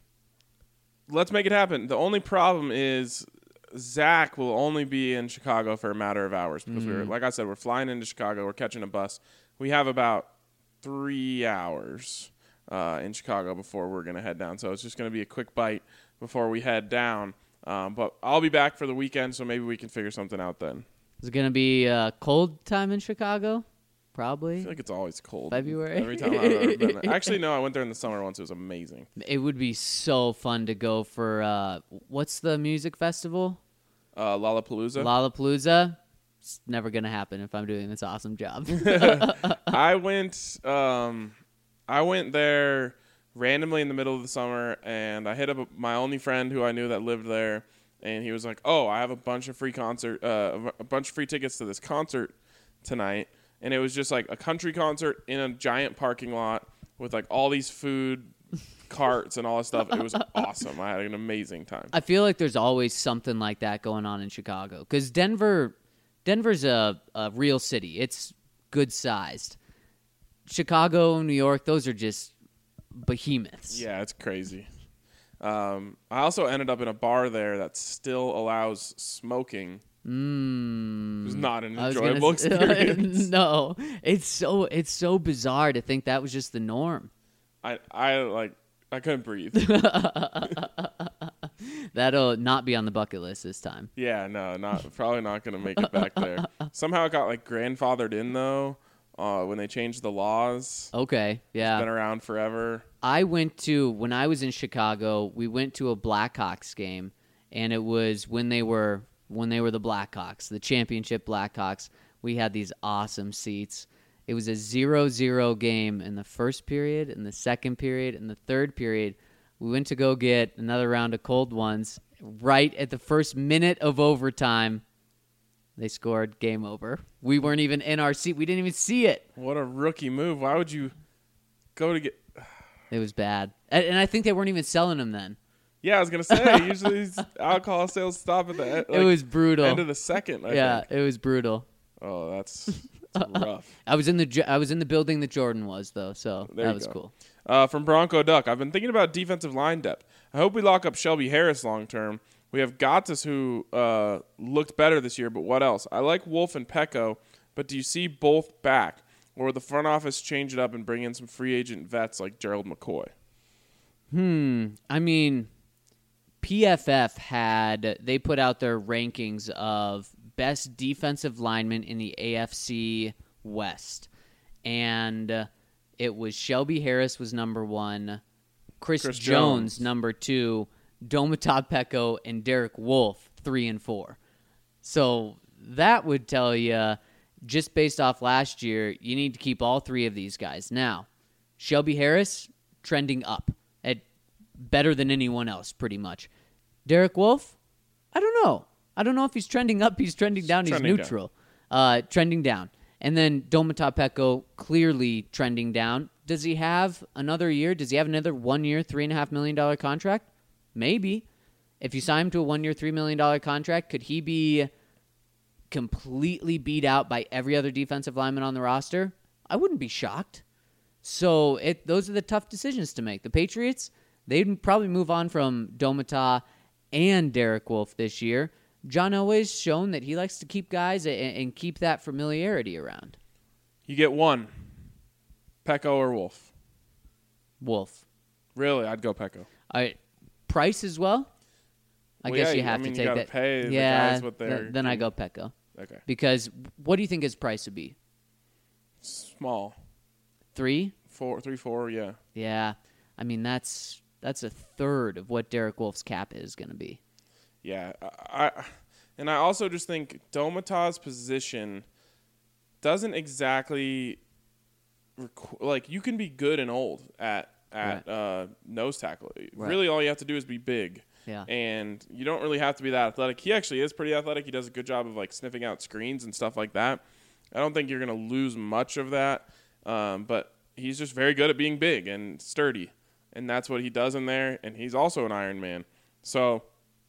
Let's make it happen. The only problem is Zach will only be in Chicago for a matter of hours because mm. we're, like I said, we're flying into Chicago. We're catching a bus. We have about three hours uh, in Chicago before we're going to head down. So it's just going to be a quick bite before we head down. Um, but I'll be back for the weekend, so maybe we can figure something out then. Is it going to be a cold time in Chicago? Probably. I feel like it's always cold. February? Every time I've ever been there. Actually, no, I went there in the summer once. It was amazing. It would be so fun to go for, uh, what's the music festival? Uh, Lollapalooza. Lollapalooza. It's never going to happen if I'm doing this awesome job. I went um, I went there randomly in the middle of the summer, and I hit up my only friend who I knew that lived there, and he was like, oh, I have a bunch of free concert, uh, a bunch of free tickets to this concert tonight. And it was just like a country concert in a giant parking lot with like all these food carts and all this stuff. It was awesome. I had an amazing time. I feel like there's always something like that going on in Chicago because Denver, Denver's a, a real city. It's good sized. Chicago, New York, those are just behemoths. Yeah, it's crazy. Um, I also ended up in a bar there that still allows smoking Mm, It was not an I was gonna enjoyable s- experience. no, it's so it's so bizarre to think that was just the norm. I, I like, I couldn't breathe. That'll not be on the bucket list this time. Yeah, no, not probably not gonna make it back there. Somehow it got like grandfathered in though, uh, when they changed the laws. Okay, yeah. Been around forever. I went to when I was in Chicago. We went to a Blackhawks game, and it was when they were when they were the Blackhawks, the championship Blackhawks. We had these awesome seats. It was a zero zero game in the first period, in the second period, in the third period. We went to go get another round of cold ones. Right at the first minute of overtime, they scored. Game over. We weren't even in our seat. We didn't even see it. What a rookie move! Why would you go to get? It was bad. And and I think they weren't even selling them then. Yeah, I was gonna say usually these alcohol sales stop at the end, like, It was brutal. end of the second. I yeah, think. it was brutal. Oh, that's, that's rough. I was in the Jo- I was in the building that Jordan was though, so There that you was go. cool. Uh, from Bronco Duck, I've been thinking about defensive line depth. I hope we lock up Shelby Harris long term. We have Gottis, who uh, looked better this year, but what else? I like Wolf and Pecco, but do you see both back? Or will the front office change it up and bring in some free agent vets like Gerald McCoy? Hmm. I mean, P F F had they put out their rankings of best defensive linemen in the A F C West, and uh, it was Shelby Harris was number one, Chris, Chris Jones, Jones. number two, Domata Pecco, and Derek Wolf three and four. So that would tell you, just based off last year, you need to keep all three of these guys. Now, Shelby Harris trending up at better than anyone else, pretty much. Derek Wolf, I don't know. I don't know if he's trending up, he's trending down, he's Trending neutral. Uh, trending down. And then Domata Pecco clearly trending down. Does he have another year? Does he have another one-year, three point five million dollars contract? Maybe. If you sign him to a one-year, three million dollars contract, could he be completely beat out by every other defensive lineman on the roster? I wouldn't be shocked. So it those are the tough decisions to make. The Patriots, they'd probably move on from Domata and Derek Wolf this year. John Elway's shown that he likes to keep guys and, and keep that familiarity around. You get one, Pecco or Wolf. Wolf. Really, I'd go Pecco. I, Price as well? I Well, guess yeah, you you- I have mean, to you take gotta that. pay the yeah, guys what they're th- then I getting. go Pecco. Okay, Because what do you think his price would be? small, Three? four, three, four. Yeah, Yeah. I mean, that's that's a third of what Derek Wolf's cap is going to be. yeah. I, I and I also just think Domata's position doesn't exactly requ- like you can be good and old at at Right. uh, nose tackle. Right. Really, all you have to do is be big. Yeah. And you don't really have to be that athletic. He actually is pretty athletic. He does a good job of like sniffing out screens and stuff like that. I don't think you're going to lose much of that. Um, but he's just very good at being big and sturdy. And that's what he does in there. And he's also an Iron Man. So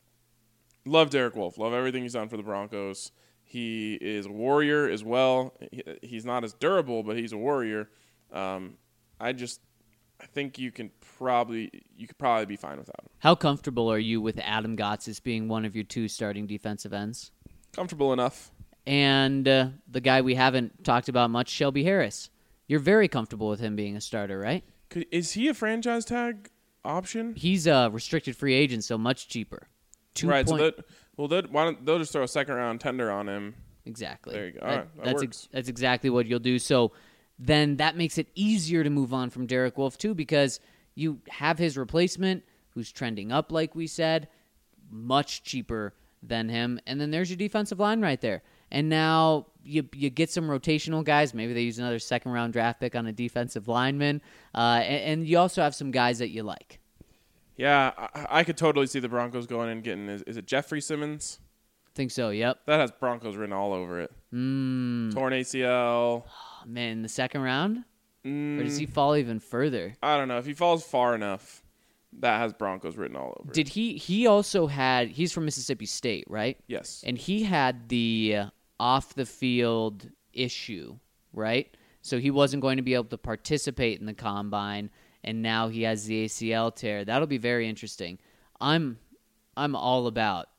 love Derek Wolf. Love everything he's done for the Broncos. He is a warrior as well. He- He's not as durable, but he's a warrior. Um, I just I think you can probably you could probably be fine without him. How comfortable are you with Adam Gotsis being one of your two starting defensive ends? Comfortable enough. And uh, the guy we haven't talked about much, Shelby Harris. You're very comfortable with him being a starter, right? Could, is he a franchise tag option? He's a restricted free agent, so much cheaper. Two right. point- So that well, that why don't they'll just throw a second round tender on him? Exactly. There you go. All That- right, that that's works. that's exactly what you'll do. So then that makes it easier to move on from Derek Wolf too, because you have his replacement who's trending up, like we said, much cheaper than him, and then there's your defensive line right there. And now you you get some rotational guys. Maybe they use another second round draft pick on a defensive lineman, uh, and, and you also have some guys that you like. Yeah, I, I could totally see the Broncos going and getting. Is, is it Jeffrey Simmons? Think so? Yep. That has Broncos written all over it. Mm. Torn A C L. Oh, man, in the second round, Mm, or does he fall even further? I don't know. If he falls far enough, that has Broncos written all over it. Did he? He also had. He's from Mississippi State, right? Yes. And he had the uh, off the field issue, right? So he wasn't going to be able to participate in the combine, and now he has the A C L tear. That'll be very interesting. I'm I'm all about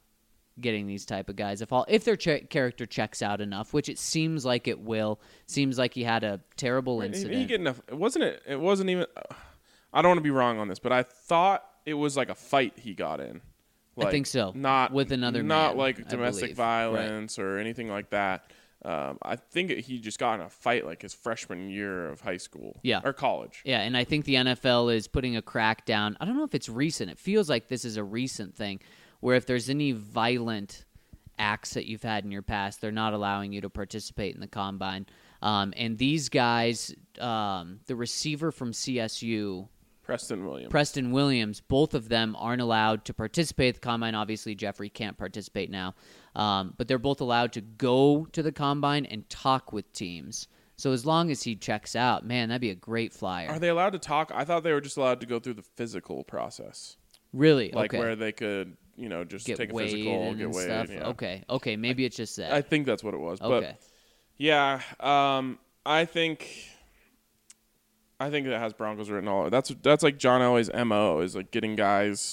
getting these type of guys if all if their ch- character checks out enough, which it seems like it will. Seems like he had a terrible incident. He, he get enough. It wasn't it. It wasn't even. Uh, I don't want to be wrong on this, but I thought it was like a fight he got in. Like, I think so. Not with another not man, like I domestic believe. violence or anything like that. Um, I think he just got in a fight like his freshman year of high school, Yeah. or college. Yeah, and I think the N F L is putting a crackdown. I don't know if it's recent. It feels like this is a recent thing, where if there's any violent acts that you've had in your past, they're not allowing you to participate in the combine. Um, and these guys, um, the receiver from C S U, Preston Williams. Preston Williams, both of them aren't allowed to participate at the combine. Obviously, Jeffrey can't participate now. Um, but they're both allowed to go to the combine and talk with teams. So as long as he checks out, man, that'd be a great flyer. Are they allowed to talk? I thought they were just allowed to go through the physical process. Really? Like okay. where they could, you know, just Get take a weighed physical, and get weighed. stuff? Yeah. Okay. Okay. Maybe it's just that. I think that's what it was. okay. But yeah, um, I think I think that has Broncos written all over. That's that's like John Elway's M O is like getting guys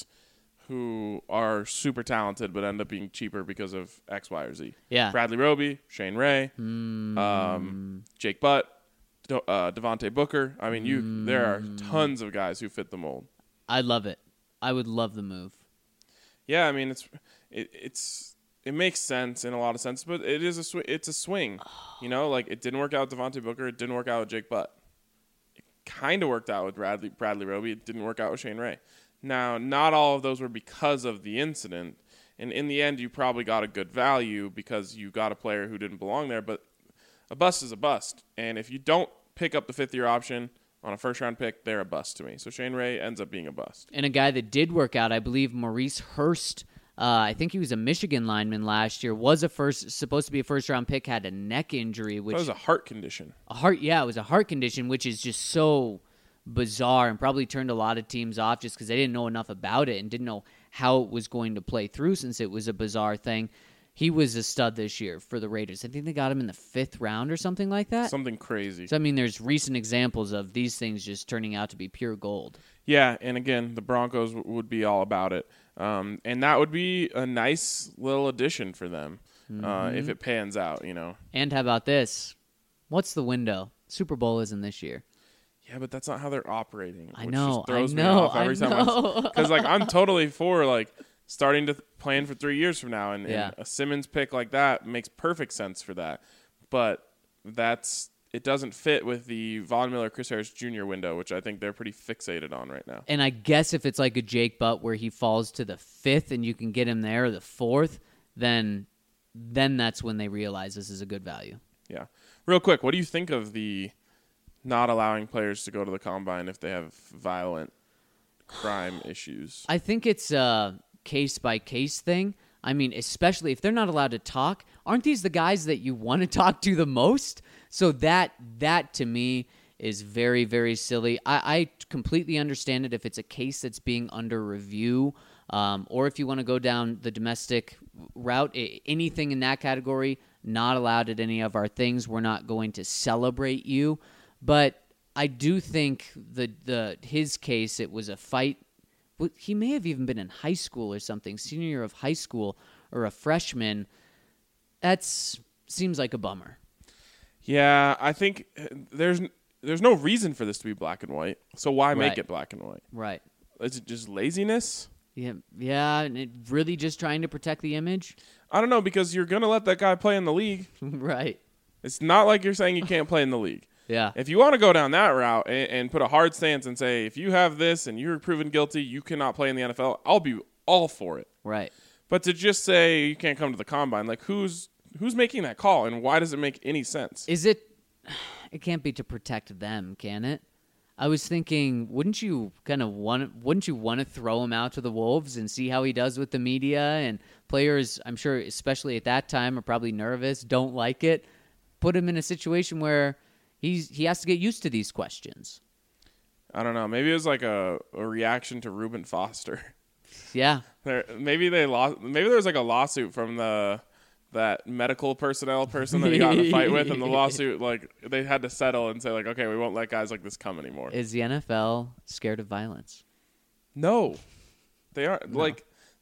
who are super talented but end up being cheaper because of X, Y, or Z. Yeah. Bradley Roby, Shane Ray, Mm. um, Jake Butt, De- uh, Devontae Booker. I mean, you Mm. there are tons of guys who fit the mold. I love it. I would love the move. Yeah, I mean it's it, it's it makes sense in a lot of sense, but it is a sw- it's a swing. You know, like it didn't work out with Devontae Booker, it didn't work out with Jake Butt. It kind of worked out with Bradley Bradley Roby, it didn't work out with Shane Ray. Now, not all of those were because of the incident, and in the end, you probably got a good value because you got a player who didn't belong there. But a bust is a bust, and if you don't pick up the fifth year option on a first round pick, they're a bust to me. So Shane Ray ends up being a bust. And a guy that did work out, I believe, Maurice Hurst. Uh, I think he was a Michigan lineman last year. Was a first, supposed to be a first round pick. Had a neck injury, which That was a heart condition. a heart. Yeah, it was a heart condition, which is just so bizarre and probably turned a lot of teams off just because they didn't know enough about it and didn't know how it was going to play through since it was a bizarre thing. He was a stud this year for the Raiders. I think they got him in the fifth round or something like that. Something crazy. So, I mean, there's recent examples of these things just turning out to be pure gold. Yeah, and again, the Broncos w- would be all about it. Um, and that would be a nice little addition for them uh, if it pans out, you know. And how about this? What's the window? Super Bowl isn't this year. Yeah, but that's not how they're operating. I which know, just throws I me know, off every I time. know. Because like I'm totally for like starting to th- plan for three years from now, and, and Yeah. a Simmons pick like that makes perfect sense for that. But that's it doesn't fit with the Von Miller, Chris Harris Junior window, which I think they're pretty fixated on right now. And I guess if it's like a Jake Butt where he falls to the fifth and you can get him there, or the fourth, then then that's when they realize this is a good value. Yeah. Real quick, what do you think of the not allowing players to go to the combine if they have violent crime issues? I think it's a case by case thing. I mean, especially if they're not allowed to talk, aren't these the guys that you want to talk to the most? So that that to me is very, very silly. I, I completely understand it if it's a case that's being under review, um, or if you want to go down the domestic route, I- anything in that category, not allowed at any of our things. We're not going to celebrate you. But I do think the the his case, it was a fight. Well, he may have even been in high school or something, senior year of high school or a freshman. That's seems like a bummer. Yeah, I think uh, there's there's no reason for this to be black and white. So why make Right. it black and white? Right. Is it just laziness? Yeah, yeah, and it really just trying to protect the image. I don't know, because you're going to let that guy play in the league. Right. It's not like you're saying you can't play in the league. Yeah. If you want to go down that route and, and put a hard stance and say, if you have this and you're proven guilty, you cannot play in the N F L, I'll be all for it. Right. But to just say you can't come to the combine, like who's who's making that call and why does it make any sense? Is it? It can't be to protect them, can it? I was thinking, wouldn't you kind of want? Wouldn't you want to throw him out to the wolves and see how he does with the media and players? I'm sure, especially at that time, are probably nervous, don't like it. Put him in a situation where he's he has to get used to these questions. I don't know. Maybe it was like a, a reaction to Reuben Foster. Yeah. There, maybe they lost. Maybe there was like a lawsuit from the that medical personnel person that he got in a fight with, and the lawsuit, like, they had to settle and say, like, okay, we won't let guys like this come anymore. Is the N F L scared of violence? No, they aren't. Like,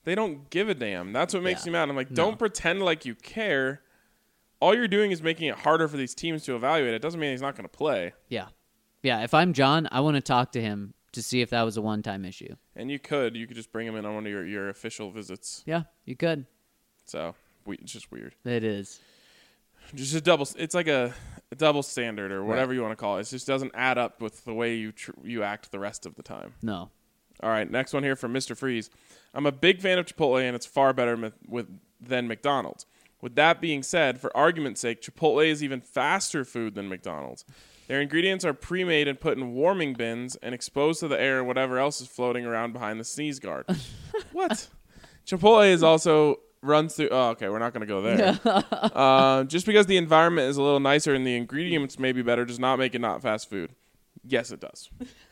They don't give a damn. That's what makes Yeah. me mad. I'm like, No. don't pretend like you care. All you're doing is making it harder for these teams to evaluate. It doesn't mean he's not going to play. Yeah. Yeah, if I'm John, I want to talk to him to see if that was a one-time issue. And you could. You could just bring him in on one of your, your official visits. Yeah, you could. So we, it's just weird. It is. Just a double. It's like a, a double standard or whatever Right. you want to call it. It just doesn't add up with the way you tr- you act the rest of the time. No. All right, next one here from Mister Freeze. I'm a big fan of Chipotle, and it's far better with, with than McDonald's. With that being said, for argument's sake, Chipotle is even faster food than McDonald's. Their ingredients are pre-made and put in warming bins and exposed to the air and whatever else is floating around behind the sneeze guard. What? Chipotle is also runs through. Oh, okay, we're not going to go there. uh, just because the environment is a little nicer and the ingredients may be better does not make it not fast food. Yes, it does.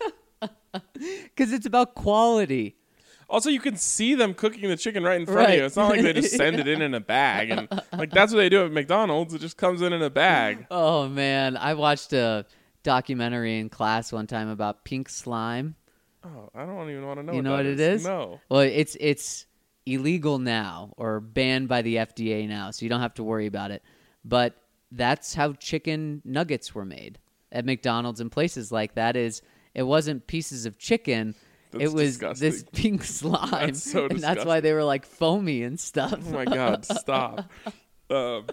Because it's about quality. Also, you can see them cooking the chicken right in front Right. of you. It's not like they just send it in in a bag. And like that's what they do at McDonald's. It just comes in in a bag. Oh, man. I watched a documentary in class one time about pink slime. Oh, I don't even want to know You what know that what it is? No. Well, it's it's illegal now or banned by the F D A now, so you don't have to worry about it. But that's how chicken nuggets were made at McDonald's and places like that. Is it wasn't pieces of chicken. That's it was disgusting. this pink slime, That's so and that's why they were like foamy and stuff. Oh my God, stop. Um,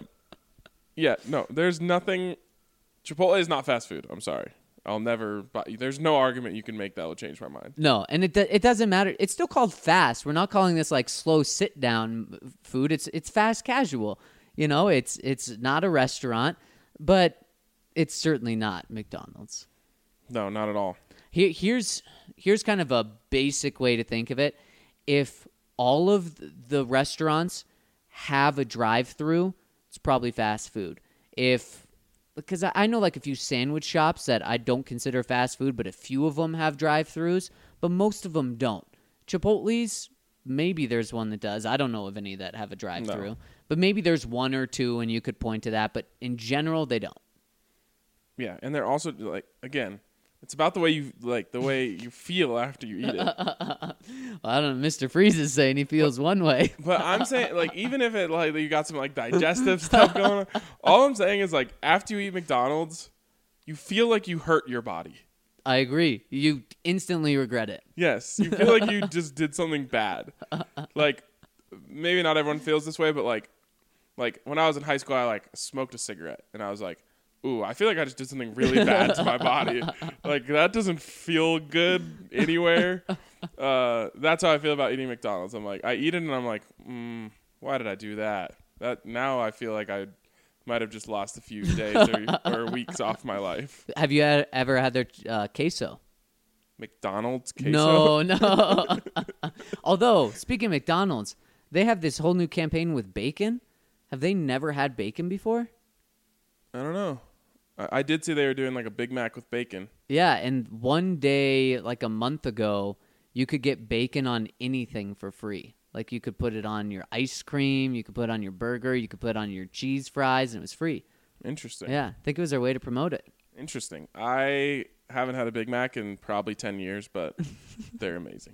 yeah, no, there's nothing. Chipotle is not fast food. I'm sorry. I'll never buy. There's no argument you can make that will change my mind. No, and it do- it doesn't matter. It's still called fast. We're not calling this like slow sit down food. It's it's fast casual. You know, it's it's not a restaurant, but it's certainly not McDonald's. No, not at all. Here, here's here's kind of a basic way to think of it. If all of the restaurants have a drive-through, it's probably fast food. If because I I know like a few sandwich shops that I don't consider fast food, but a few of them have drive-throughs, but most of them don't. Chipotle's, maybe there's one that does. I don't know of any that have a drive-through, No. but maybe there's one or two, and you could point to that. But in general, they don't. Yeah, and they're also like again, it's about the way you like the way you feel after you eat it. Well, I don't know. Mister Freeze is saying he feels one way. But I'm saying, like, even if it like you got some like digestive stuff going on, all I'm saying is like after you eat McDonald's, you feel like you hurt your body. I agree. You instantly regret it. Yes, you feel like you just did something bad. Like maybe not everyone feels this way, but like like when I was in high school, I like smoked a cigarette, and I was like, ooh, I feel like I just did something really bad to my body. Like that doesn't feel good anywhere. Uh, that's how I feel about eating McDonald's. I'm like, I eat it and I'm like, mm, why did I do that? That now I feel like I might have just lost a few days or, or weeks off my life. Have you had, ever had their uh, queso? McDonald's queso? No, no. Although, speaking of McDonald's, they have this whole new campaign with bacon. Have they never had bacon before? I don't know. I, I did see they were doing like a Big Mac with bacon. Yeah, and one day, like a month ago, you could get bacon on anything for free. Like you could put it on your ice cream, you could put it on your burger, you could put it on your cheese fries, and it was free. Interesting. Yeah, I think it was their way to promote it. Interesting. I haven't had a Big Mac in probably ten years, but they're amazing.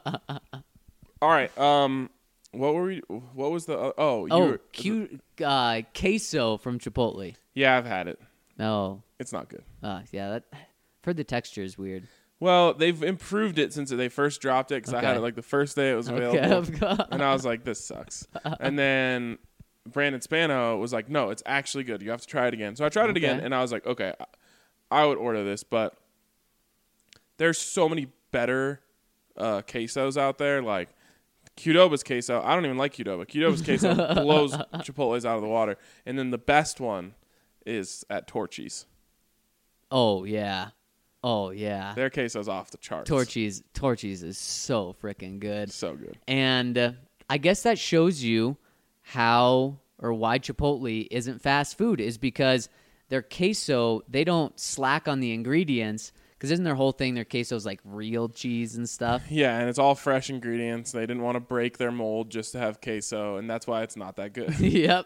All right. Um, what were we? What was the? Uh, oh, you Oh, were, cute uh, queso from Chipotle. yeah, I've had it. No, It's not good. uh, yeah, that, I've heard the texture is weird. Well, they've improved it since they first dropped it because I had Okay. it like the first day it was Okay, available, of course. and I was like, "This sucks." And then Brandon Spano was like, "No, it's actually good. You have to try it again." So I tried it again, Okay. and I was like, "Okay, I would order this," but there's so many better uh, quesos out there, like Qdoba's queso. I don't even like Qdoba. Qdoba's queso blows Chipotle's out of the water, and then the best one is at Torchy's. Oh yeah, oh yeah. Their queso's off the charts. Torchy's, Torchy's is so freaking good. So good. And uh, I guess that shows you how or why Chipotle isn't fast food is because their queso, they don't slack on the ingredients because isn't their whole thing their queso's like real cheese and stuff? Yeah, and it's all fresh ingredients. They didn't want to break their mold just to have queso, and that's why it's not that good. Yep.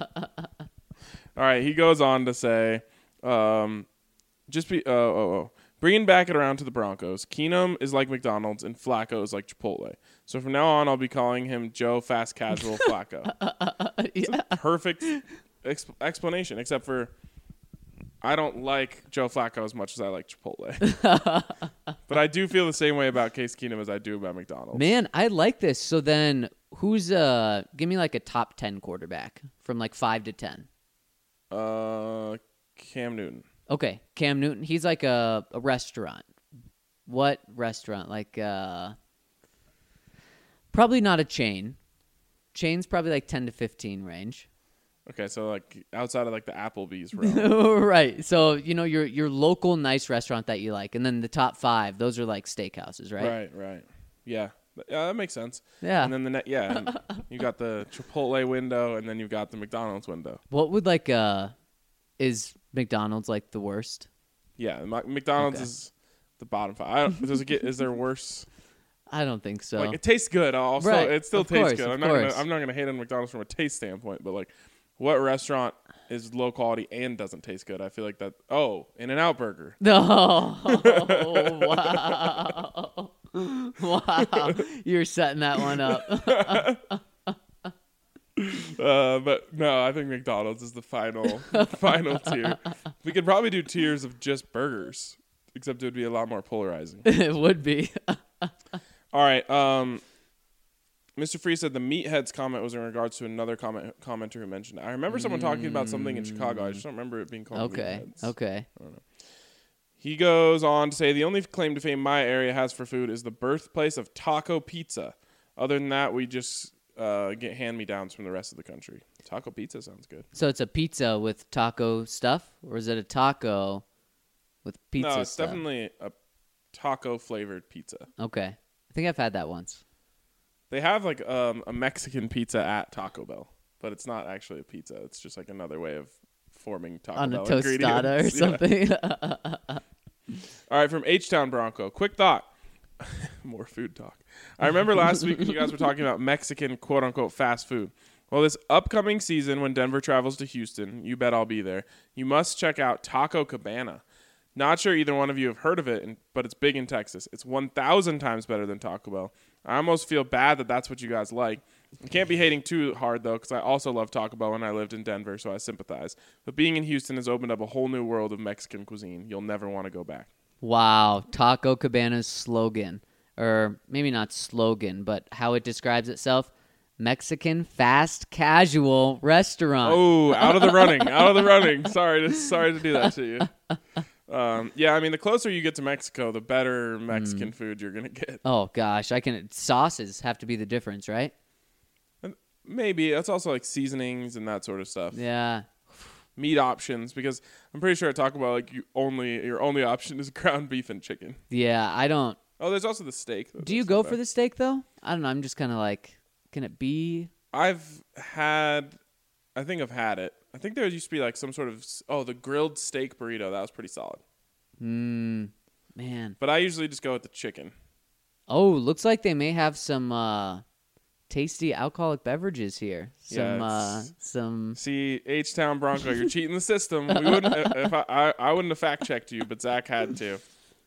All right, he goes on to say, um, just be oh, oh, oh. Bringing back it around to the Broncos, Keenum is like McDonald's and Flacco is like Chipotle. So from now on, I'll be calling him Joe Fast Casual Flacco. yeah. It's a perfect exp- explanation, except for I don't like Joe Flacco as much as I like Chipotle. But I do feel the same way about Case Keenum as I do about McDonald's. Man, I like this. So then who's uh give me like a top ten quarterback from like five to ten. Uh, Cam Newton. Okay, Cam Newton. He's like a, a restaurant. What restaurant? Like uh probably not a chain. Chain's probably like ten to fifteen range. Okay, so like outside of like the Applebee's realm. Right. So, you know, your your local nice restaurant that you like, and then the top five, those are like steakhouses, right? Right, right. Yeah. Yeah, that makes sense. Yeah. And then the ne- yeah, and you got the Chipotle window, and then you've got the McDonald's window. What would like uh is McDonald's like the worst? Yeah, Ma- McDonald's Okay. is the bottom five. I don't, does it get? Is there worse? I don't think so. Like it tastes good. Also, Right, it still of tastes course, good. of I'm not. Gonna, course. I'm not gonna hate on McDonald's from a taste standpoint, but like, what restaurant is low quality and doesn't taste good? I feel like that. Oh, In-N-Out Burger. No. Wow. Wow. You're setting that one up. Uh, but no, I think McDonald's is the final final tier. We could probably do tiers of just burgers, except it would be a lot more polarizing. It would be. All right. Um, Mister Free said the Meatheads comment was in regards to another comment commenter who mentioned it. I remember someone talking about something in Chicago. I just don't remember it being called Okay. Meatheads. Okay. He goes on to say the only claim to fame my area has for food is the birthplace of taco pizza. Other than that, we just uh, get hand-me-downs from the rest of the country. Taco pizza sounds good. So it's a pizza with taco stuff, or is it a taco with pizza no, it's stuff? definitely a taco-flavored pizza. Okay. I think I've had that once. They have like um, a Mexican pizza at Taco Bell, but it's not actually a pizza. It's just like another way of forming Taco On a Bell tostada or ingredients. Yeah. something. All right, from H-Town Bronco. Quick thought. More food talk. I remember last week when you guys were talking about Mexican quote-unquote fast food. Well, this upcoming season when Denver travels to Houston, you bet I'll be there, you must check out Taco Cabana. Not sure either one of you have heard of it, but it's big in Texas. It's one thousand times better than Taco Bell. I almost feel bad that that's what you guys like. I can't be hating too hard, though, because I also love Taco Bell when I lived in Denver, so I sympathize. But being in Houston has opened up a whole new world of Mexican cuisine. You'll never want to go back. Wow. Taco Cabana's slogan, or maybe not slogan, but how it describes itself, Mexican fast casual restaurant. Oh, out of the running. Out of the running. Sorry to, sorry to do that to you. Um, yeah, I mean, the closer you get to Mexico, the better Mexican mm. food you're going to get. Oh, gosh. I can. Sauces have to be the difference, right? And maybe. It's also like seasonings and that sort of stuff. Yeah. Meat options, because I'm pretty sure I talk about like you only your only option is ground beef and chicken. Yeah, I don't. Oh, there's also the steak. Do you go for the steak, though? I don't know. I'm just kind of like, can it be? I've had, I think I've had it. I think there used to be like some sort of, oh, the grilled steak burrito. That was pretty solid. Mmm, man. But I usually just go with the chicken. Oh, looks like they may have some uh, tasty alcoholic beverages here. Some, yeah, uh, some. See, H-Town Bronco, you're cheating the system. We wouldn't, if I, I, I wouldn't have fact checked you, but Zach had to.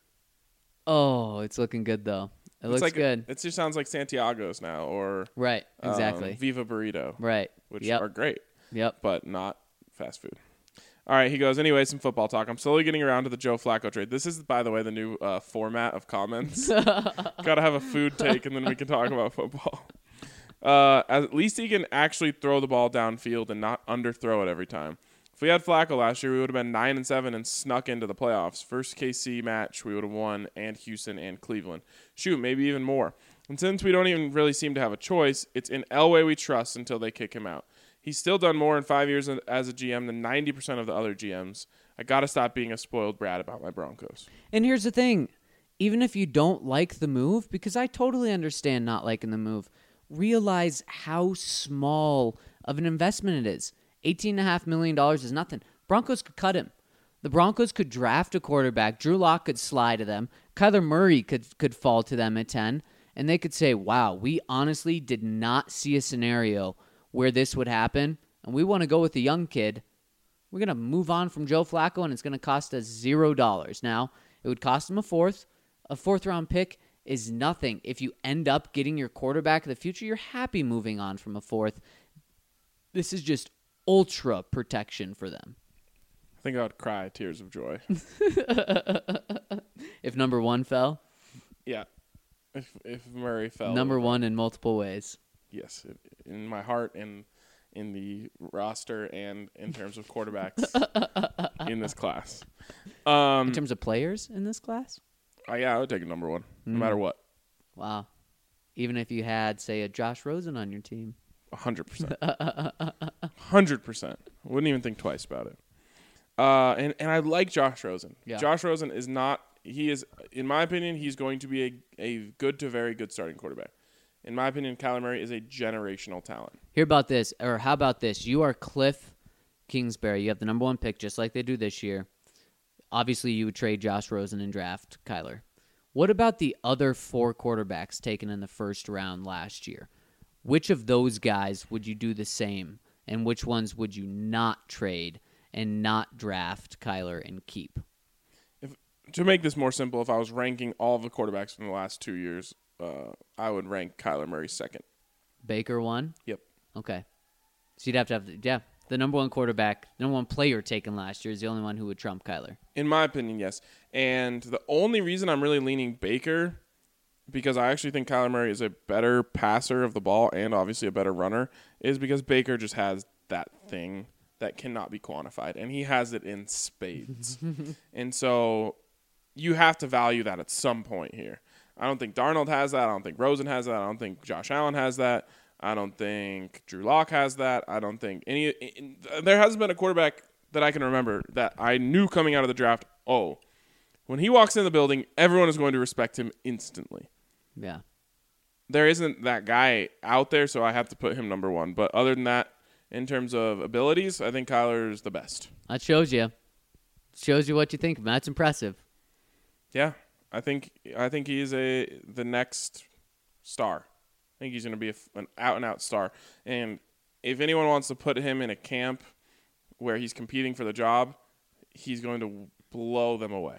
Oh, it's looking good though. It it's looks like, good. It just sounds like Santiago's now, or right, exactly. Um, Viva Burrito, right, which yep. are great. Yep, but not fast food. All right, he goes, anyway, some football talk. I'm slowly getting around to the Joe Flacco trade. This is, by the way, the new uh, format of comments. Got to have a food take, and then we can talk about football. Uh, at least he can actually throw the ball downfield and not underthrow it every time. If we had Flacco last year, we would have been nine and seven and snuck into the playoffs. First K C match, we would have won, and Houston and Cleveland. Shoot, maybe even more. And since we don't even really seem to have a choice, it's in Elway we trust until they kick him out. He's still done more in five years as a G M than ninety percent of the other G Ms. I got to stop being a spoiled brat about my Broncos. And here's the thing. Even if you don't like the move, because I totally understand not liking the move, realize how small of an investment it is. eighteen point five million dollars is nothing. Broncos could cut him. The Broncos could draft a quarterback. Drew Lock could slide to them. Kyler Murray could, could fall to them at ten. And they could say, wow, we honestly did not see a scenario where this would happen, and we want to go with the young kid. We're going to move on from Joe Flacco, and it's going to cost us zero dollars. Now, It would cost him a fourth. A fourth-round pick is nothing. If you end up getting your quarterback of the future, you're happy moving on from a fourth. This is just ultra protection for them. I think I would cry tears of joy. If number one fell? Yeah. If if Murray fell. Number one in multiple ways. Yes. In my heart and in the roster and in terms of quarterbacks in this class. Um, In terms of players in this class? uh, yeah, I would take a number one, no Mm. matter what. Wow. Even if you had, say, a Josh Rosen on your team. A hundred percent. A hundred percent. Wouldn't even think twice about it. Uh, and, and I like Josh Rosen. Yeah. Josh Rosen is not, he is, in my opinion, he's going to be a, a good to very good starting quarterback. In my opinion, Kyler Murray is a generational talent. Hear about this, or how about this? You are Cliff Kingsbury. You have the number one pick, just like they do this year. Obviously, you would trade Josh Rosen and draft Kyler. What about the other four quarterbacks taken in the first round last year? Which of those guys would you do the same, and which ones would you not trade and not draft Kyler and keep? If, to make this more simple, if I was ranking all of the quarterbacks from the last two years, uh, I would rank Kyler Murray second. Baker one? Yep. Okay. So you'd have to have, the, yeah, the number one quarterback, the number one player taken last year is the only one who would trump Kyler. In my opinion, yes. And the only reason I'm really leaning Baker, because I actually think Kyler Murray is a better passer of the ball and obviously a better runner, is because Baker just has that thing that cannot be quantified, and he has it in spades. And so you have to value that at some point here. I don't think Darnold has that. I don't think Rosen has that. I don't think Josh Allen has that. I don't think Drew Lock has that. I don't think any in, there hasn't been a quarterback that I can remember that I knew coming out of the draft, oh, when he walks in the building, everyone is going to respect him instantly. Yeah. There isn't that guy out there, so I have to put him number one. But other than that, in terms of abilities, I think Kyler's the best. That shows you. Shows you what you think. That's impressive. Yeah, I think I think he's a the next star. I think he's going to be a, an out-and-out star. And if anyone wants to put him in a camp where he's competing for the job, he's going to blow them away.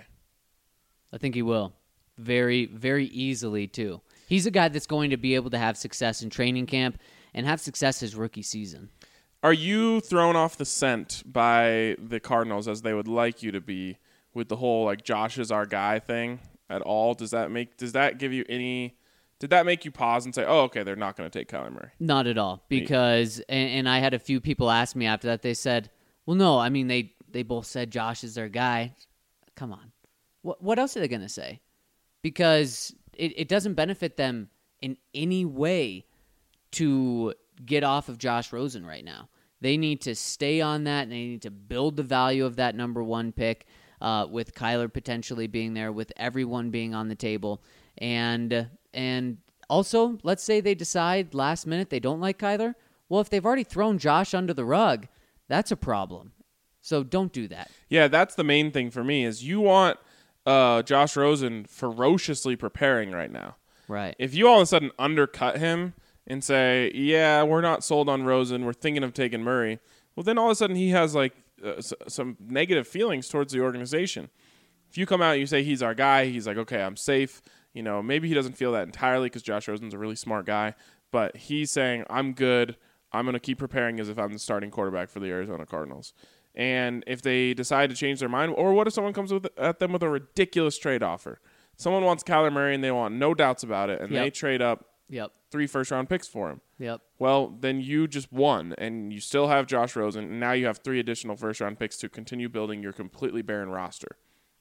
I think he will. Very, very easily, too. He's a guy that's going to be able to have success in training camp and have success his rookie season. Are you thrown off the scent by the Cardinals as they would like you to be with the whole, like, Josh is our guy thing at all? Does that make does that give you any Did that make you pause and say, oh, okay, they're not going to take Kyler Murray? Not at all. Because, and, and I had a few people ask me after that, they said, well, no, I mean, they, they both said Josh is their guy. Come on. What what else are they going to say? Because it, it doesn't benefit them in any way to get off of Josh Rosen right now. They need to stay on that, and they need to build the value of that number one pick uh, with Kyler potentially being there, with everyone being on the table. And and also, let's say they decide last minute they don't like Kyler. Well, if they've already thrown Josh under the rug, that's a problem. So don't do that. Yeah, that's the main thing for me is you want uh, Josh Rosen ferociously preparing right now. Right. If you all of a sudden undercut him and say, yeah, we're not sold on Rosen, we're thinking of taking Murray, well, then all of a sudden he has like uh, s- some negative feelings towards the organization. If you come out and you say he's our guy, he's like, okay, I'm safe. You know, maybe he doesn't feel that entirely because Josh Rosen's a really smart guy, but he's saying, I'm good. I'm going to keep preparing as if I'm the starting quarterback for the Arizona Cardinals. And if they decide to change their mind, or what if someone comes with, at them with a ridiculous trade offer? Someone wants Kyler Murray and they want no doubts about it, and Yep. they trade up Yep. three first-round picks for him. Yep. Well, then you just won, and you still have Josh Rosen, and now you have three additional first-round picks to continue building your completely barren roster.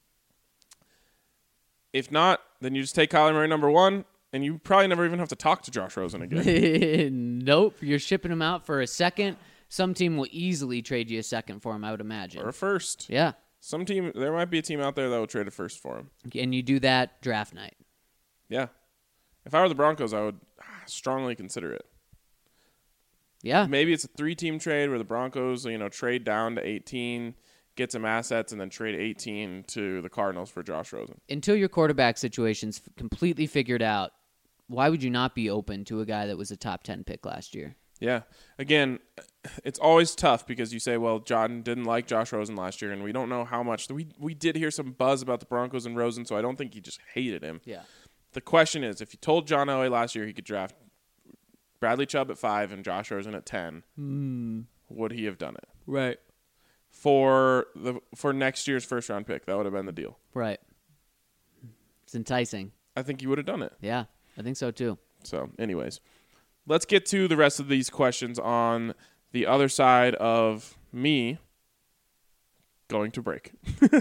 If not, then you just take Kyler Murray number one, and you probably never even have to talk to Josh Rosen again. Nope. You're shipping him out for a second. Some team will easily trade you a second for him, I would imagine. Or a first. Yeah. Some team, there might be a team out there that will trade a first for him. And you do that draft night. Yeah. If I were the Broncos, I would strongly consider it. Yeah. Maybe it's a three-team trade where the Broncos, you know, trade down to eighteen, get some assets, and then trade eighteen to the Cardinals for Josh Rosen. Until your quarterback situation's f- completely figured out, why would you not be open to a guy that was a top ten pick last year? Yeah. Again, it's always tough because you say, well, John didn't like Josh Rosen last year, and we don't know how much. We we did hear some buzz about the Broncos and Rosen, so I don't think he just hated him. Yeah. The question is, if you told John Elway last year he could draft Bradley Chubb at five and Josh Rosen at ten, Mm. would he have done it? Right. For the for next year's first round pick, that would have been the deal. Right. It's enticing. I think he would have done it. Yeah, I think so too. So, anyways, let's get to the rest of these questions on the other side of me going to break.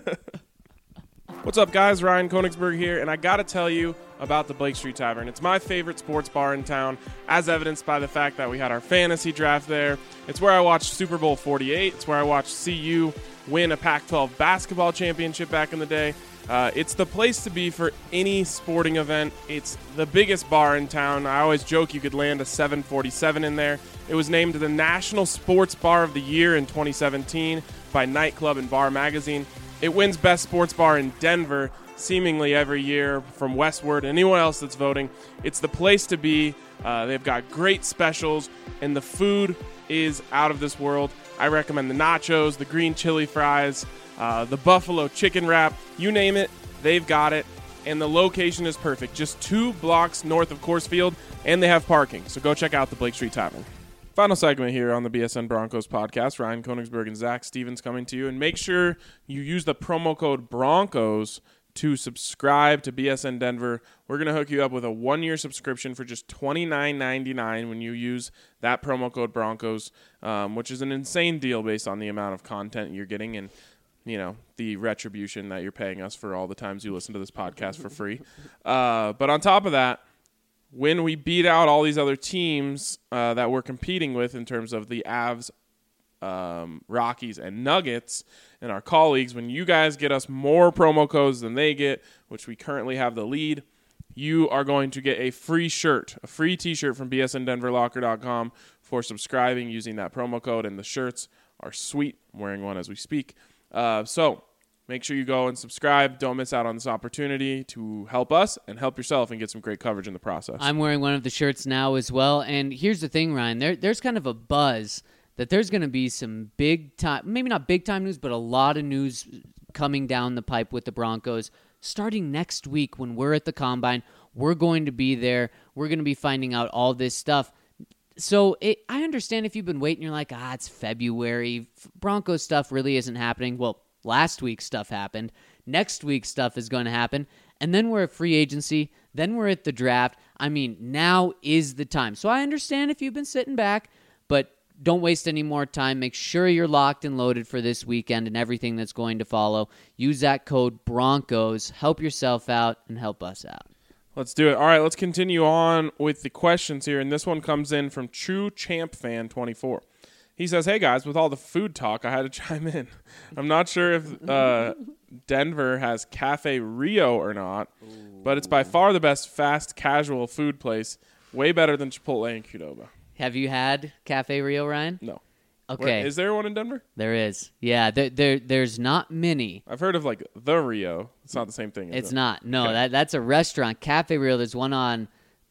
What's up, guys? Ryan Konigsberg here, and I got to tell you about the Blake Street Tavern. It's my favorite sports bar in town, as evidenced by the fact that we had our fantasy draft there. It's where I watched Super Bowl forty-eight. It's where I watched C U win a Pac twelve basketball championship back in the day. Uh, it's the place to be for any sporting event. It's the biggest bar in town. I always joke you could land a seven forty-seven in there. It was named the National Sports Bar of the Year in twenty seventeen by Nightclub and Bar Magazine. It wins Best Sports Bar in Denver seemingly every year from Westward. Anyone else that's voting, it's the place to be. Uh, they've got great specials, and the food is out of this world. I recommend the nachos, the green chili fries, uh, the buffalo chicken wrap. You name it, they've got it. And the location is perfect. Just two blocks north of Coors Field, and they have parking. So go check out the Blake Street Tavern. Final segment here on the B S N Broncos podcast. Ryan Konigsberg and Zach Stevens coming to you. And make sure you use the promo code BRONCOS to subscribe to B S N Denver. We're going to hook you up with a one-year subscription for just twenty-nine ninety-nine when you use that promo code BRONCOS, um, which is an insane deal based on the amount of content you're getting and, you know, the retribution that you're paying us for all the times you listen to this podcast for free. Uh, but on top of that, when we beat out all these other teams uh, that we're competing with in terms of the Avs, um, Rockies, and Nuggets, and our colleagues, when you guys get us more promo codes than they get, which we currently have the lead, you are going to get a free shirt, a free T-shirt from B S N Denver Locker dot com for subscribing using that promo code, and the shirts are sweet. I'm wearing one as we speak. Uh, so make sure you go and subscribe. Don't miss out on this opportunity to help us and help yourself and get some great coverage in the process. I'm wearing one of the shirts now as well. And here's the thing, Ryan. There, there's kind of a buzz that there's going to be some big time, maybe not big time news, but a lot of news coming down the pipe with the Broncos starting next week when we're at the Combine. We're going to be there. We're going to be finding out all this stuff. So it, I understand if you've been waiting, you're like, ah, it's February. Broncos stuff really isn't happening. Well, last week's stuff happened. Next week's stuff is going to happen. And then we're at free agency. Then we're at the draft. I mean, now is the time. So I understand if you've been sitting back, but don't waste any more time. Make sure you're locked and loaded for this weekend and everything that's going to follow. Use that code BRONCOS. Help yourself out and help us out. Let's do it. All right, let's continue on with the questions here. And this one comes in from True Champ Fan twenty-four. He says, hey, guys, with all the food talk, I had to chime in. I'm not sure if uh, Denver has Cafe Rio or not, Ooh. But it's by far the best fast casual food place, way better than Chipotle and Qdoba. Have you had Cafe Rio, Ryan? No. Okay. Where, is there one in Denver? There is. Yeah, there, there there's not many. I've heard of, like, the Rio. It's not the same thing, is It's it? not. No, okay. that that's a restaurant. Cafe Rio, there's one on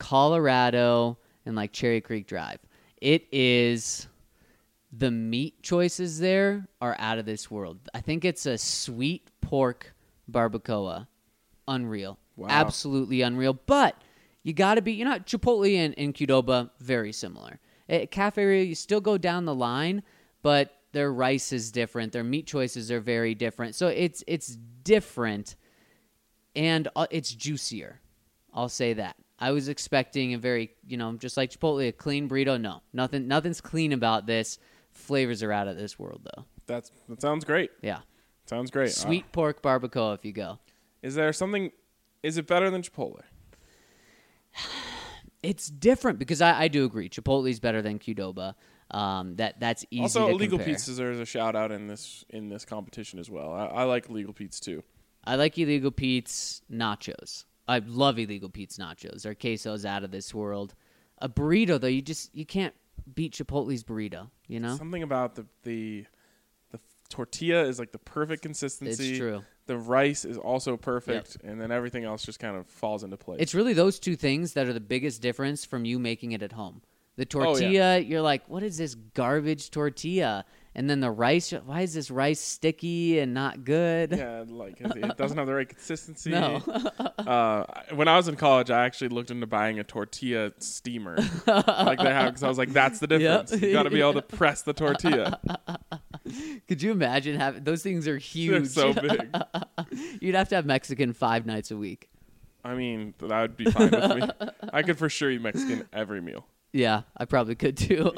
Colorado and, like, Cherry Creek Drive. It is... The meat choices there are out of this world. I think it's a sweet pork barbacoa. Unreal. Wow. Absolutely unreal. But you got to be, you know, Chipotle and, and Qdoba, very similar. At Cafe Rio, you still go down the line, but their rice is different. Their meat choices are very different. So it's it's different, and it's juicier. I'll say that. I was expecting a very, you know, just like Chipotle, a clean burrito. No, nothing. Nothing's clean about this. Flavors are out of this world, though. That's That sounds great. Yeah. Sounds great. Sweet uh, pork barbacoa if you go. Is there something, is it better than Chipotle? It's different because I, I do agree. Chipotle is better than Qdoba. Um, that That's easy also, to Illegal compare. Pete's deserves a shout-out in this in this competition as well. I, I like Illegal Pete's, too. I like Illegal Pete's nachos. I love Illegal Pete's nachos. Their queso's out of this world. A burrito, though, you just you can't beat Chipotle's burrito, you know? Something about the the the tortilla is like the perfect consistency. It's true. The rice is also perfect, yep. And then everything else just kind of falls into place. It's really those two things that are the biggest difference from you making it at home. The tortilla, you're like, what is this garbage tortilla? And then the rice, why is this rice sticky and not good? Yeah, like it, it doesn't have the right consistency. No. uh, when I was in college, I actually looked into buying a tortilla steamer, like they have, because I was like, that's the difference. Yep. You got to be able to press the tortilla. Could you imagine having those things are They're huge. so big. You'd have to have Mexican five nights a week. I mean, that would be fine with me. I could for sure eat Mexican every meal. Yeah, I probably could too.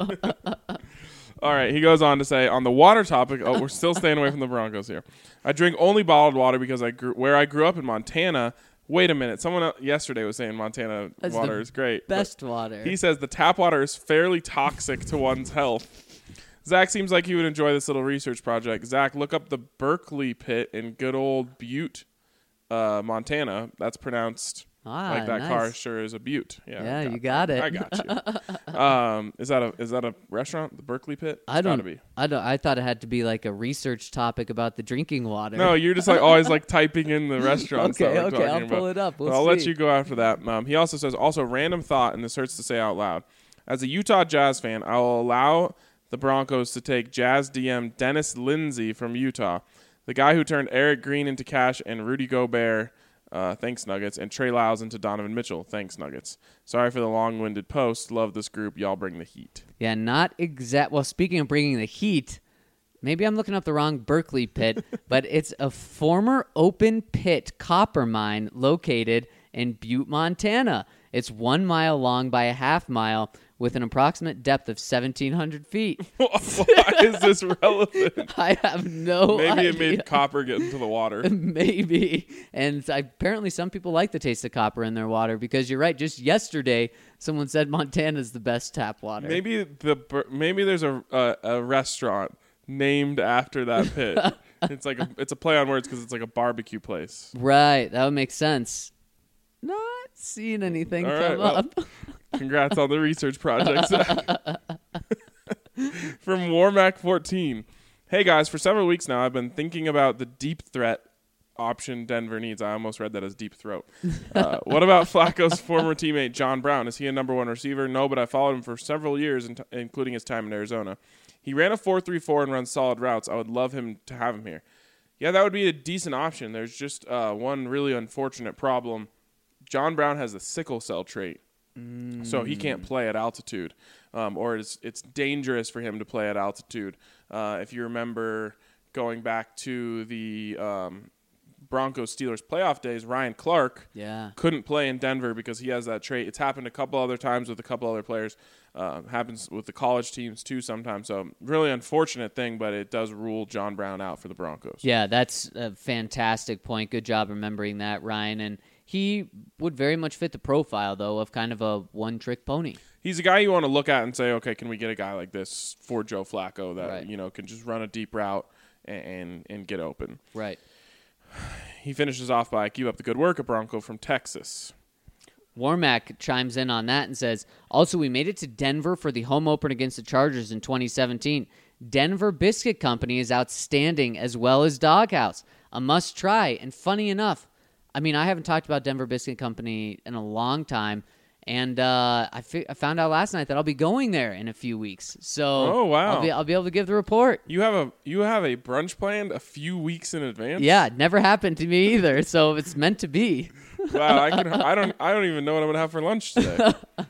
All right, he goes on to say, on the water topic, oh, we're still staying away from the Broncos here. I drink only bottled water because I grew where I grew up in Montana. Wait a minute. Someone else yesterday was saying Montana That's water the is great. but Best water. He says the tap water is fairly toxic to one's health. Zach seems like he would enjoy this little research project. Zach, look up the Berkeley Pit in good old Butte, uh, Montana. That's pronounced Ah, like that nice. car sure is a Butte. Yeah, Yeah, I you got it. I got you. um, is that a is that a restaurant? The Berkeley Pit? I It's don't. gotta be. I don't. I thought it had to be like a research topic about the drinking water. No, you're just like always like typing in the restaurants. Okay, that we're okay, talking I'll pull about. it up. We'll But I'll let see. you go after that. Um, he also says, also random thought, and this hurts to say out loud. As a Utah Jazz fan, I will allow the Broncos to take Jazz D M Dennis Lindsey from Utah, the guy who turned Eric Green into cash and Rudy Gobert. Uh, thanks, Nuggets. And Trey Lyles into Donovan Mitchell. Thanks, Nuggets. Sorry for the long-winded post. Love this group. Y'all bring the heat. Yeah, not exact. Well, speaking of bringing the heat, maybe I'm looking up the wrong Berkeley Pit, but it's a former open pit copper mine located in Butte, Montana. It's one mile long by a half mile with an approximate depth of seventeen hundred feet. Why is this relevant? I have no Maybe idea. it made copper get into the water. Maybe. And I, apparently some people like the taste of copper in their water because you're right. Just yesterday, someone said Montana's the best tap water. Maybe the bur- maybe there's a, a a restaurant named after that pit. It's like a, it's a play on words because it's like a barbecue place. Right. That would make sense. Not seeing anything All come right, well, up. Congrats on the research project. From Warmac fourteen. Hey guys, for several weeks now I've been thinking about the deep threat option Denver needs. I almost read that as deep throat. Uh, what about Flacco's former teammate John Brown? Is he a number one receiver? No, but I followed him for several years, in t- including his time in Arizona. He ran a four three four and runs solid routes. I would love him to have him here. Yeah, that would be a decent option. There's just uh, one really unfortunate problem. John Brown has the sickle cell trait, mm. so he can't play at altitude, um, or it's it's dangerous for him to play at altitude. Uh, if you remember going back to the um, Broncos-Steelers playoff days, Ryan Clark Yeah. couldn't play in Denver because he has that trait. It's happened a couple other times with a couple other players. Uh, happens with the college teams too sometimes. So really unfortunate thing, but it does rule John Brown out for the Broncos. Yeah, that's a fantastic point. Good job remembering that, Ryan. And he would very much fit the profile, though, of kind of a one-trick pony. He's a guy you want to look at and say, okay, can we get a guy like this for Joe Flacco that Right. you know can just run a deep route and, and and get open. Right. He finishes off by keep up the good work, a Bronco from Texas. Warmack chimes in on that and says, also, we made it to Denver for the home opener against the Chargers in twenty seventeen. Denver Biscuit Company is outstanding, as well as Doghouse. A must-try. And funny enough, I mean, I haven't talked about Denver Biscuit Company in a long time, and uh, I, fi- I found out last night that I'll be going there in a few weeks. So Oh, wow. I'll be, I'll be able to give the report. You have a you have a brunch planned a few weeks in advance. Yeah, it never happened to me either, so it's meant to be. Wow, I can I don't I don't even know what I'm gonna have for lunch today.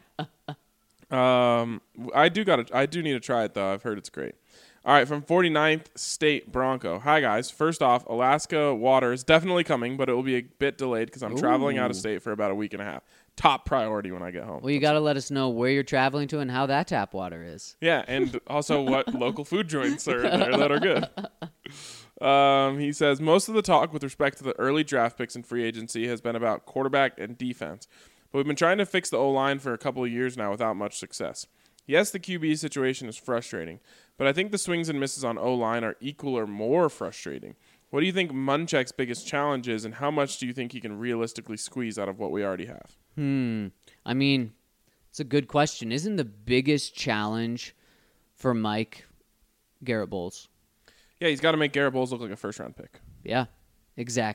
um, I do got to I do need to try it though. I've heard it's great. All right, from forty-ninth State Bronco. Hi guys. First off, Alaska water is definitely coming, but it will be a bit delayed because I'm traveling out of Ooh. state for about a week and a half. Top priority when I get home. Well, you got to let us know where you're traveling to and how that tap water is. Yeah, and also what local food joints are there that are good. Um, he says, most of the talk with respect to the early draft picks and free agency has been about quarterback and defense. But we've been trying to fix the O-line for a couple of years now without much success. Yes, the Q B situation is frustrating, but I think the swings and misses on O-line are equal or more frustrating. What do you think Munchak's biggest challenge is, and how much do you think he can realistically squeeze out of what we already have? Hmm. I mean, it's a good question. Isn't the biggest challenge for Mike Garrett Bowles? Yeah, he's got to make Garrett Bowles look like a first-round pick. Yeah, exactly.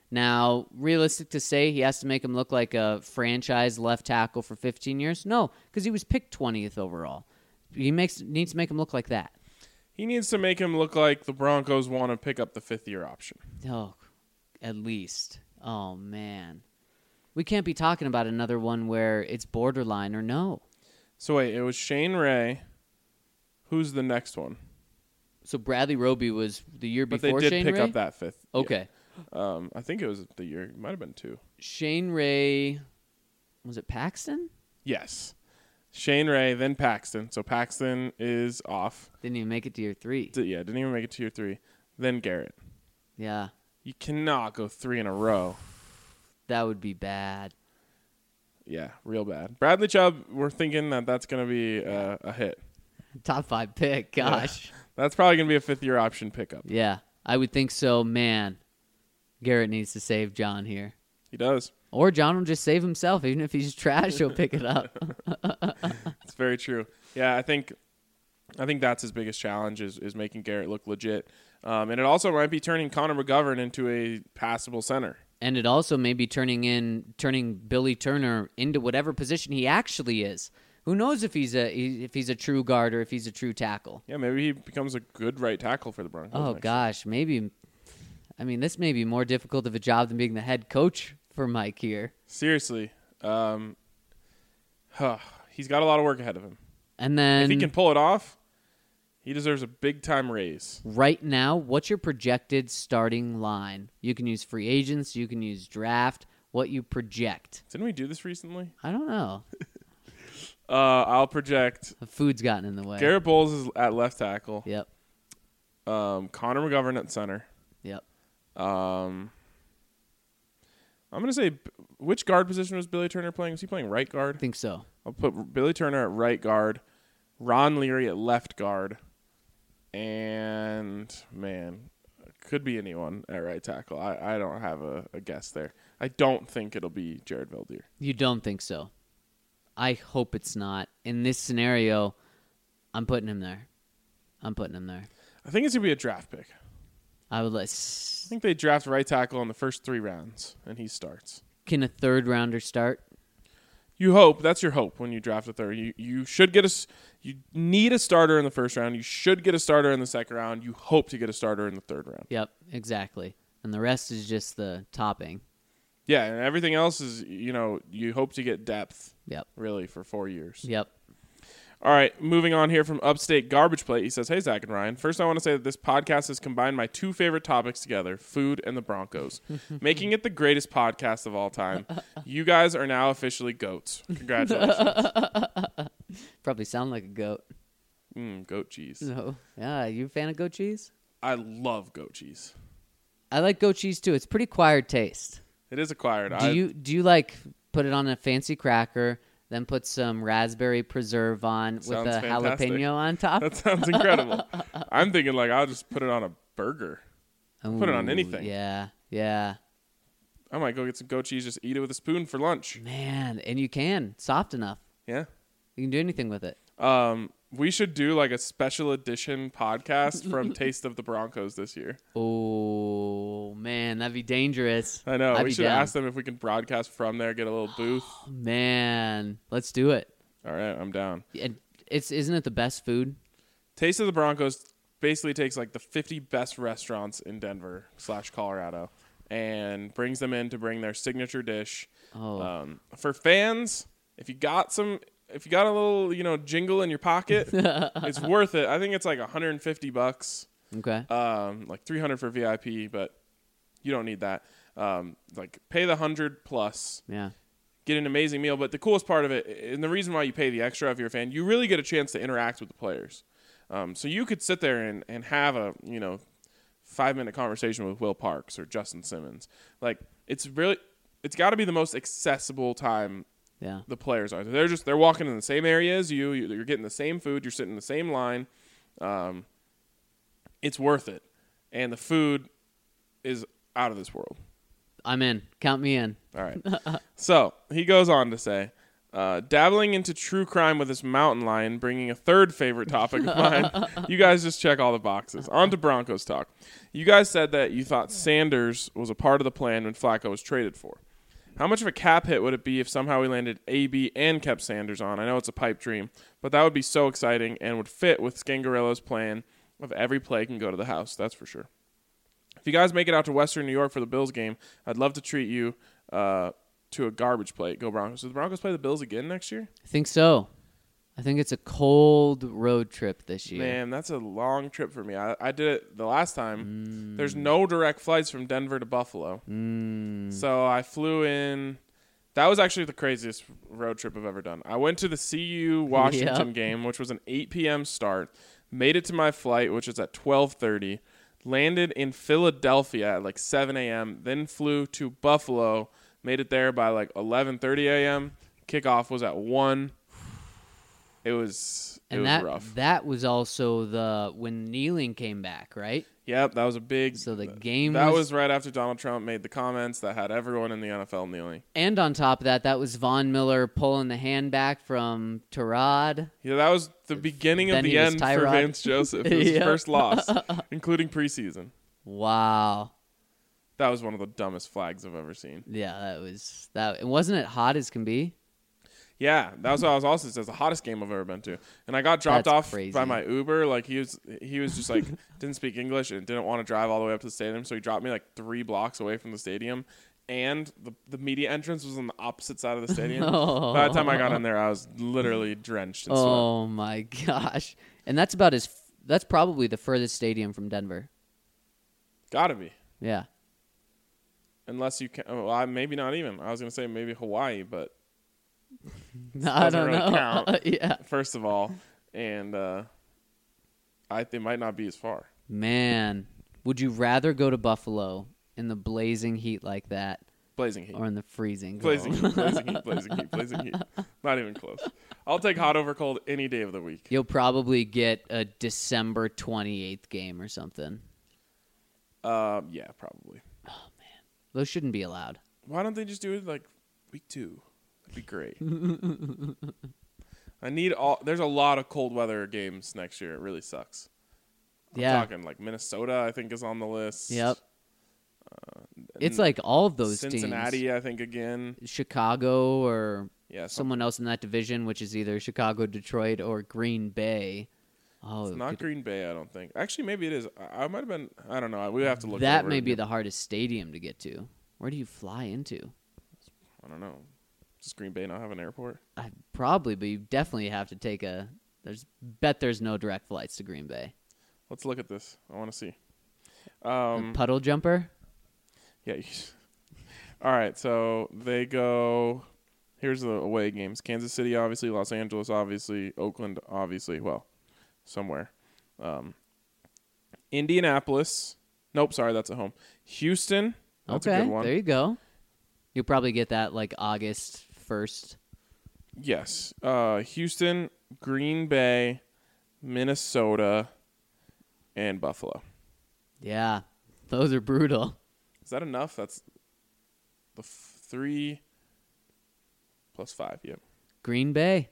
Now, realistic to say he has to make him look like a franchise left tackle for fifteen years? No, because he was picked twentieth overall. He makes needs to make him look like that. He needs to make him look like the Broncos want to pick up the fifth-year option. Oh, at least. Oh, man. We can't be talking about another one where it's borderline or no. So, wait, it was Shane Ray. Who's the next one? So Bradley Roby was the year But before they did Shane pick Ray? up that fifth. Yeah. Okay. Um, I think it was the year. It might have been two. Shane Ray, was it Paxton? Yes. Shane Ray, then Paxton. So Paxton is off. Didn't even make it to year three. D- yeah, didn't even make it to year three. Then Garrett. Yeah, You cannot go three in a row. that would be bad. Yeah, real bad. Bradley Chubb, we're thinking that that's going to be uh, a hit. Top five pick, gosh. That's probably going to be a fifth-year option pickup. Yeah, I would think so. Man, Garrett needs to save John here. He does. Or John will just save himself. Even if he's trash, he'll pick it up. It's very true. Yeah, I think I think that's his biggest challenge is, is making Garrett look legit. Um, and it also might be turning Connor McGovern into a passable center. And it also may be turning in, turning Billy Turner into whatever position he actually is. Who knows if he's a if he's a true guard or if he's a true tackle? Yeah, maybe he becomes a good right tackle for the Broncos. Oh next gosh, maybe. I mean, this may be more difficult of a job than being the head coach for Mike here. year. Seriously, um, huh, he's got a lot of work ahead of him. And then If he can pull it off, he deserves a big time raise. right now, what's your projected starting line? You can use free agents, you can use draft. What you project? Didn't we do this recently? I don't know. Uh, I'll project The food's gotten in the way. Garrett Bowles is at left tackle. Yep. Um, Connor McGovern at center. Yep. Um, I'm gonna say, which guard position was Billy Turner playing? Was he playing right I guard? think so. I'll put Billy Turner at right guard, Ron Leary at left guard, and man, could be anyone at right tackle. I, I don't have a, a guess there. I don't think it'll be Jared Veldier. You don't think so? I hope it's not. In this scenario, I'm putting him there. I'm putting him there. I think it's gonna be a draft pick. I would let. I think they draft right tackle in the first three rounds, and he starts. Can a third rounder start? You hope. That's your hope when you draft a third. You you should get a s- you need a starter in the first round. You should get a starter in the second round. You hope to get a starter in the third round. Yep, exactly. And the rest is just the topping. Yeah, and everything else is, you know, you hope to get depth, Yep. really, for four years. Yep. All right, moving on here from Upstate Garbage Plate. He says, hey, Zach and Ryan. First, I want to say that this podcast has combined my two favorite topics together, food and the Broncos, making it the greatest podcast of all time. You guys are now officially goats. Congratulations. Probably sound like a goat. mm, goat cheese. No. Yeah, you a fan of goat cheese? I love goat cheese. I like goat cheese too. It's pretty acquired taste. It is acquired. Do I, you do you like put it on a fancy cracker, then put some raspberry preserve on with Sounds a fantastic. jalapeno on top? That sounds incredible. I'm thinking, like, I'll just put it on a burger. Put it on Ooh, anything. Yeah, yeah. I might go get some goat cheese, just eat it with a spoon for lunch. Man, and you can. Soft enough. Yeah. You can do anything with it. Um, we should do like a special edition podcast from Taste of the Broncos this year. Oh, man, that'd be dangerous. I know. I'd we be should down. ask them if we can broadcast from there, get a little booth. Man, let's do it. All right, I'm down. And it's isn't it the best food? Taste of the Broncos basically takes like the fifty best restaurants in Denver slash Colorado and brings them in to bring their signature dish. Oh, Um, for fans, if you got some, if you got a little, you know, jingle in your pocket, it's worth it. I think it's like one hundred fifty bucks, okay. um, like three hundred for V I P, but you don't need that. Um, like pay the hundred plus, Yeah. get an amazing meal. But the coolest part of it, and the reason why you pay the extra if you're a fan, you really get a chance to interact with the players. Um, so you could sit there and, and have a, you know, five minute conversation with Will Parks or Justin Simmons. Like it's really, it's got to be the most accessible time Yeah. the players are. They're just they're walking in the same area as you. You're getting the same food. You're sitting in the same line. Um, it's worth it, and the food is out of this world. I'm in. Count me in. All right. So he goes on to say, Uh, dabbling into true crime with this mountain lion, bringing a third favorite topic of mine. You guys just check all the boxes. On to Broncos talk. You guys said that you thought Sanders was a part of the plan when Flacco was traded for. How much of a cap hit would it be if somehow we landed A B and kept Sanders on? I know it's a pipe dream, but that would be so exciting and would fit with Scangarello's plan of every play can go to the house. That's for sure. If you guys make it out to Western New York for the Bills game, I'd love to treat you uh, to a garbage plate. Go Broncos. Do the Broncos play the Bills again next year? I think so. I think it's a cold road trip this year. Man, that's a long trip for me. I, I did it the last time. Mm. There's no direct flights from Denver to Buffalo. Mm. So I flew in. That was actually the craziest road trip I've ever done. I went to the C U Washington Yep. game, which was an eight p.m. start. Made it to my flight, which is at twelve thirty. Landed in Philadelphia at like seven a.m. Then flew to Buffalo. Made it there by like eleven thirty a.m. Kickoff was at one. It was it And was that rough. that was also the when Kneeling came back, right? Yep, that was a big. So the game that was- was right after Donald Trump made the comments that had everyone in the N F L kneeling. And on top of that, that was Von Miller pulling the hand back from Tyrod. Yeah, that was the beginning Then of the he was end for Tyrod. Vance Joseph. It was his Yep. first loss, including preseason. Wow. That was one of the dumbest flags I've ever seen. Yeah, that was that. And wasn't it hot as can be? Yeah, that was what I was also says the hottest game I've ever been to. And I got dropped That's off crazy. by my Uber. Like he was, he was just like didn't speak English and didn't want to drive all the way up to the stadium, so he dropped me like three blocks away from the stadium. And the the media entrance was on the opposite side of the stadium. Oh. By the time I got in there, I was literally drenched in sweat. Oh my gosh! And that's about as that's probably the furthest stadium from Denver. Gotta be. Yeah. Unless you can, oh, I, maybe not even. I was gonna say maybe Hawaii, but I doesn't don't really know. count. Yeah. first of all, and uh, I they might not be as far. Man, would you rather go to Buffalo in the blazing heat like that, Blazing heat, or in the freezing? blazing cold? heat, blazing heat, blazing heat, blazing heat. Not even close. I'll take hot over cold any day of the week. You'll probably get a December twenty-eighth game or something. Um, yeah, probably. Those shouldn't be allowed. Why don't they just do it like week two? That'd be great. I need all. There's a lot of cold weather games next year. It really sucks. I'm Yeah. talking like Minnesota, I think, is on the list. Yep. It's N- like all of those Cincinnati, teams. I think, again. Chicago or Yeah, some, someone else in that division, which is either Chicago, Detroit, or Green Bay. Oh, it's not could- Green Bay, I don't think. Actually, maybe it is. I, I might have been. I don't know. We have to look. that over may it be again. the hardest stadium to get to. Where do you fly into? I don't know. Does Green Bay not have an airport? I probably, but you definitely have to take a. There's bet there's no direct flights to Green Bay. Let's look at this. I want to see. A Um, puddle jumper. yeah. you- All right. So they go. Here's the away games: Kansas City, obviously; Los Angeles, obviously; Oakland, obviously. Well, somewhere. Um, Indianapolis. Nope. Sorry, that's at home. Houston. That's okay, a good one. there you go. You'll probably get that like August first. Yes. Uh, Houston, Green Bay, Minnesota, and Buffalo. Yeah, those are brutal. Is that enough? That's the f- three plus five. Yep. Green Bay,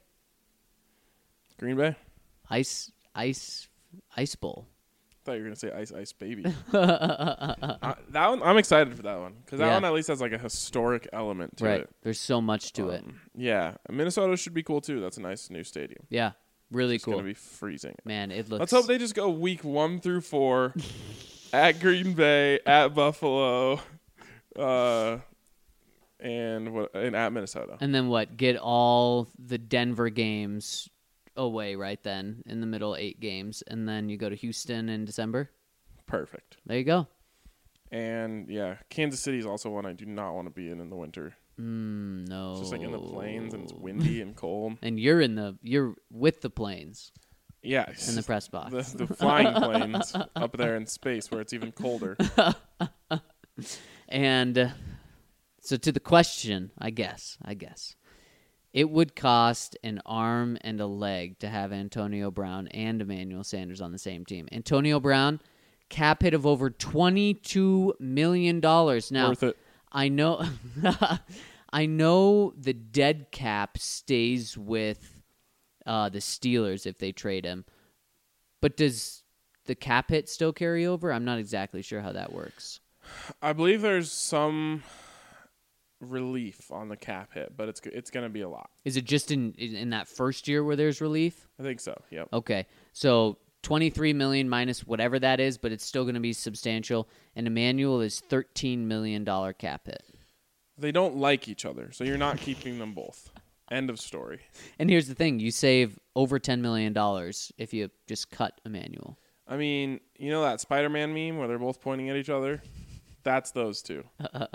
Green Bay. ice, ice, ice bowl. I thought you were gonna say Ice Ice Baby. uh, that one, I'm excited for that one because that Yeah. one at least has like a historic element to Right. it. There's so much to it. Um, Yeah, Minnesota should be cool too. That's a nice new stadium. Yeah, really It's cool. gonna be freezing. Man, it looks. Let's hope they just go week one through four at Green Bay, at Buffalo, uh, and what and at Minnesota. And then what? Get all the Denver games away right then in the middle eight games, and then you go to Houston in December. Perfect. There you go. And yeah, Kansas City is also one I do not want to be in in the winter. Mm, no. It's just like in the plains and it's windy and cold. And you're in the you're with the planes Yeah, in the press box. the, the flying planes up there in space where it's even colder. And uh, so to the question, I guess, I guess. It would cost an arm and a leg to have Antonio Brown and Emmanuel Sanders on the same team. Antonio Brown, cap hit of over twenty-two million dollars. Now, Worth it. I know I know the dead cap stays with uh, the Steelers if they trade him, but does the cap hit still carry over? I'm not exactly sure how that works. I believe there's some relief on the cap hit, but it's it's going to be a lot. Is it just in in that first year where there's relief? I think so. Yep. Okay, so twenty-three million dollars minus whatever that is, but it's still going to be substantial. And Emmanuel is thirteen million dollars cap hit. They don't like each other, so you're not keeping them both. End of story. And here's the thing: you save over ten million dollars if you just cut Emmanuel. I mean, you know that Spider-Man meme where they're both pointing at each other? That's those two.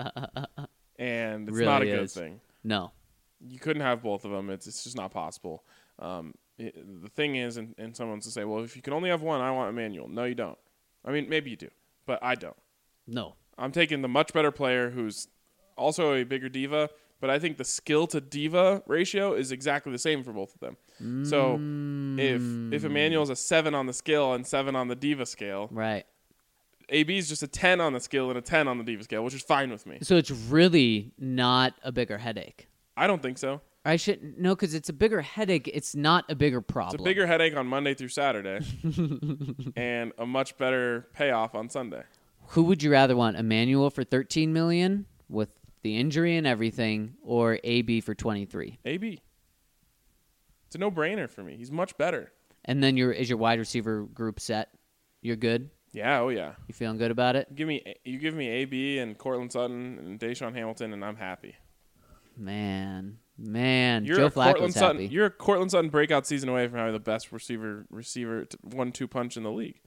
And it's Really not a good is. thing. No. You couldn't have both of them. It's, it's just not possible. Um, it, the thing is, and, and someone's to say, well, if you can only have one, I want Emmanuel. No, you don't. I mean, maybe you do, but I don't. No. I'm taking the much better player who's also a bigger diva, but I think the skill to diva ratio is exactly the same for both of them. Mm. So if if Emmanuel's a seven on the skill and seven on the diva scale, Right. A B is just a ten on the skill and a ten on the diva scale, which is fine with me. So it's really not a bigger headache. I don't think so. I should no, because it's a bigger headache. It's not a bigger problem. It's a bigger headache on Monday through Saturday, and a much better payoff on Sunday. Who would you rather want, Emmanuel for thirteen million dollars with the injury and everything, or A B for twenty-three? A B. It's a no-brainer for me. He's much better. And then your is your wide receiver group set? You're good? Yeah, oh yeah. You feeling good about it? Give me you give me A B and Cortland Sutton and Deshaun Hamilton, and I'm happy. Man, man, You're Joe a Cortland Flacco's Sutton, happy. You're a Cortland Sutton breakout season away from having the best receiver receiver one two punch in the league.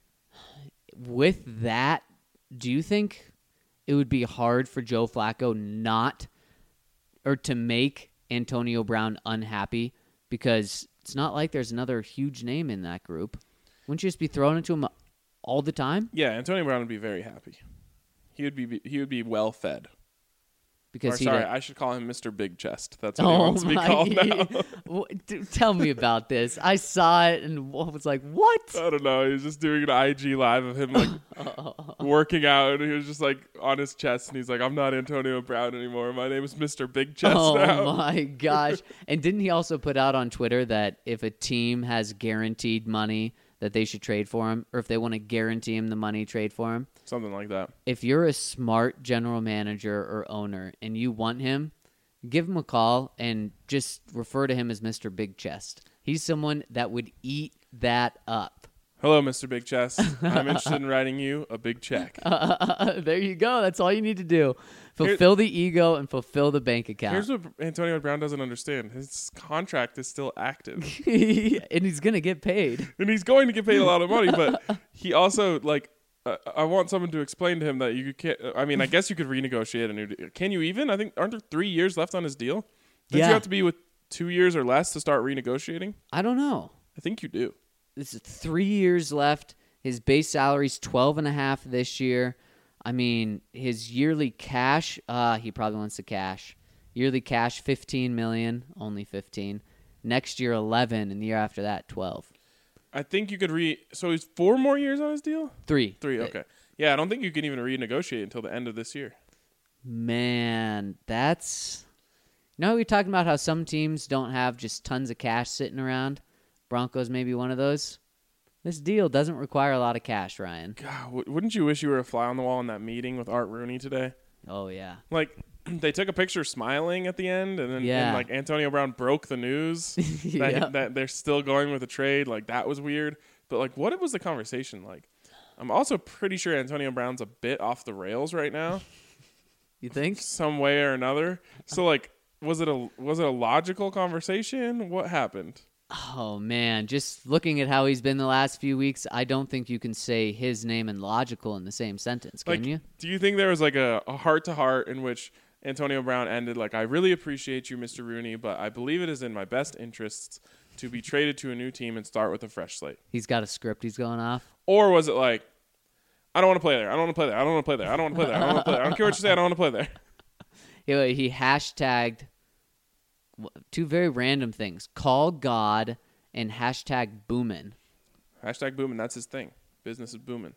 With that, do you think it would be hard for Joe Flacco not or to make Antonio Brown unhappy? Because it's not like there's another huge name in that group. Wouldn't you just be throwing it to him all the time? Yeah, Antonio Brown would be very happy. He would be he would be well fed. Because or, he sorry, did- I should call him Mister Big Chest. That's what oh he wants to be my! called now. What- dude, tell me about this. I saw it and was like, "What?" I don't know. He was just doing an I G live of him like working out, and he was just like on his chest, and he's like, "I'm not Antonio Brown anymore. My name is Mister Big Chest Oh now." my gosh! And didn't he also put out on Twitter that if a team has guaranteed money, that they should trade for him, or if they want to guarantee him the money, trade for him? Something like that. If you're a smart general manager or owner and you want him, give him a call and just refer to him as Mister Big Chest. He's someone that would eat that up. Hello, Mister Big Chest. I'm interested in writing you a big check. Uh, there you go. That's all you need to do. Fulfill the ego and fulfill the bank account. Here's what Antonio Brown doesn't understand. His contract is still active. And he's going to get paid. And he's going to get paid a lot of money, but he also, like, uh, I want someone to explain to him that you can't, I mean, I guess you could renegotiate a new deal. Can you even? I think, aren't there three years left on his deal? Don't Yeah. you have to be with two years or less to start renegotiating? I don't know. I think you do. This is three years left. His base salary's twelve and a half this year. I mean, his yearly cash, uh, he probably wants the cash. Yearly cash, fifteen million, only fifteen. Next year, eleven, and the year after that, twelve. I think you could re, so he's four more years on his deal? Three. Three, okay. Yeah, I don't think you can even renegotiate until the end of this year. Man, that's... You know, we were talking about how some teams don't have just tons of cash sitting around. Broncos may be one of those. This deal doesn't require a lot of cash, Ryan. God, w- wouldn't you wish you were a fly on the wall in that meeting with Art Rooney today? Oh, yeah. Like, they took a picture smiling at the end, and then Yeah. and, like Antonio Brown broke the news that, Yeah. that they're still going with the trade. Like, that was weird. But, like, what was the conversation like? I'm also pretty sure Antonio Brown's a bit off the rails right now, You think? some way or another. So, like, was it a was it a logical conversation? What happened? Oh, man. Just looking at how he's been the last few weeks, I don't think you can say his name and logical in the same sentence, can Like, you? do you think there was like a, a heart-to-heart in which Antonio Brown ended like, I really appreciate you, Mister Rooney, but I believe it is in my best interests to be traded to a new team and start with a fresh slate? He's got a script he's going off. Or was it like, I don't want to play there. I don't want to play there. I don't want to play there. I don't want to play there. I don't want to play there. I don't care what you say. I don't want to play there. He, he hashtagged two very random things. Call God and hashtag boomin'. Hashtag booming. That's his thing. Business is booming.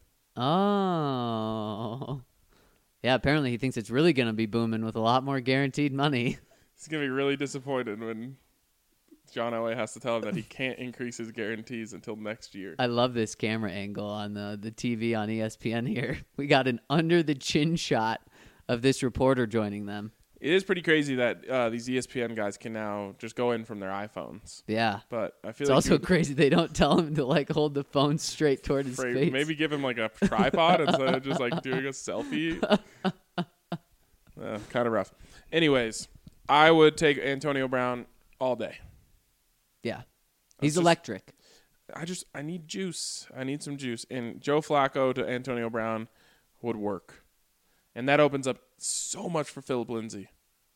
Oh. Yeah, apparently he thinks it's really going to be booming with a lot more guaranteed money. He's going to be really disappointed when John Elway has to tell him that he can't increase his guarantees until next year. I love this camera angle on the, the T V on E S P N here. We got an under-the-chin shot of this reporter joining them. It is pretty crazy that uh, these E S P N guys can now just go in from their iPhones. Yeah. But I feel It's like also you- crazy they don't tell him to like hold the phone straight toward his Fra- face. Maybe give him like a tripod instead of just like doing a selfie. uh, kind of rough. Anyways, I would take Antonio Brown all day. Yeah. He's just- electric. I just I need juice. I need some juice. And Joe Flacco to Antonio Brown would work. And that opens up so much for Philip Lindsay.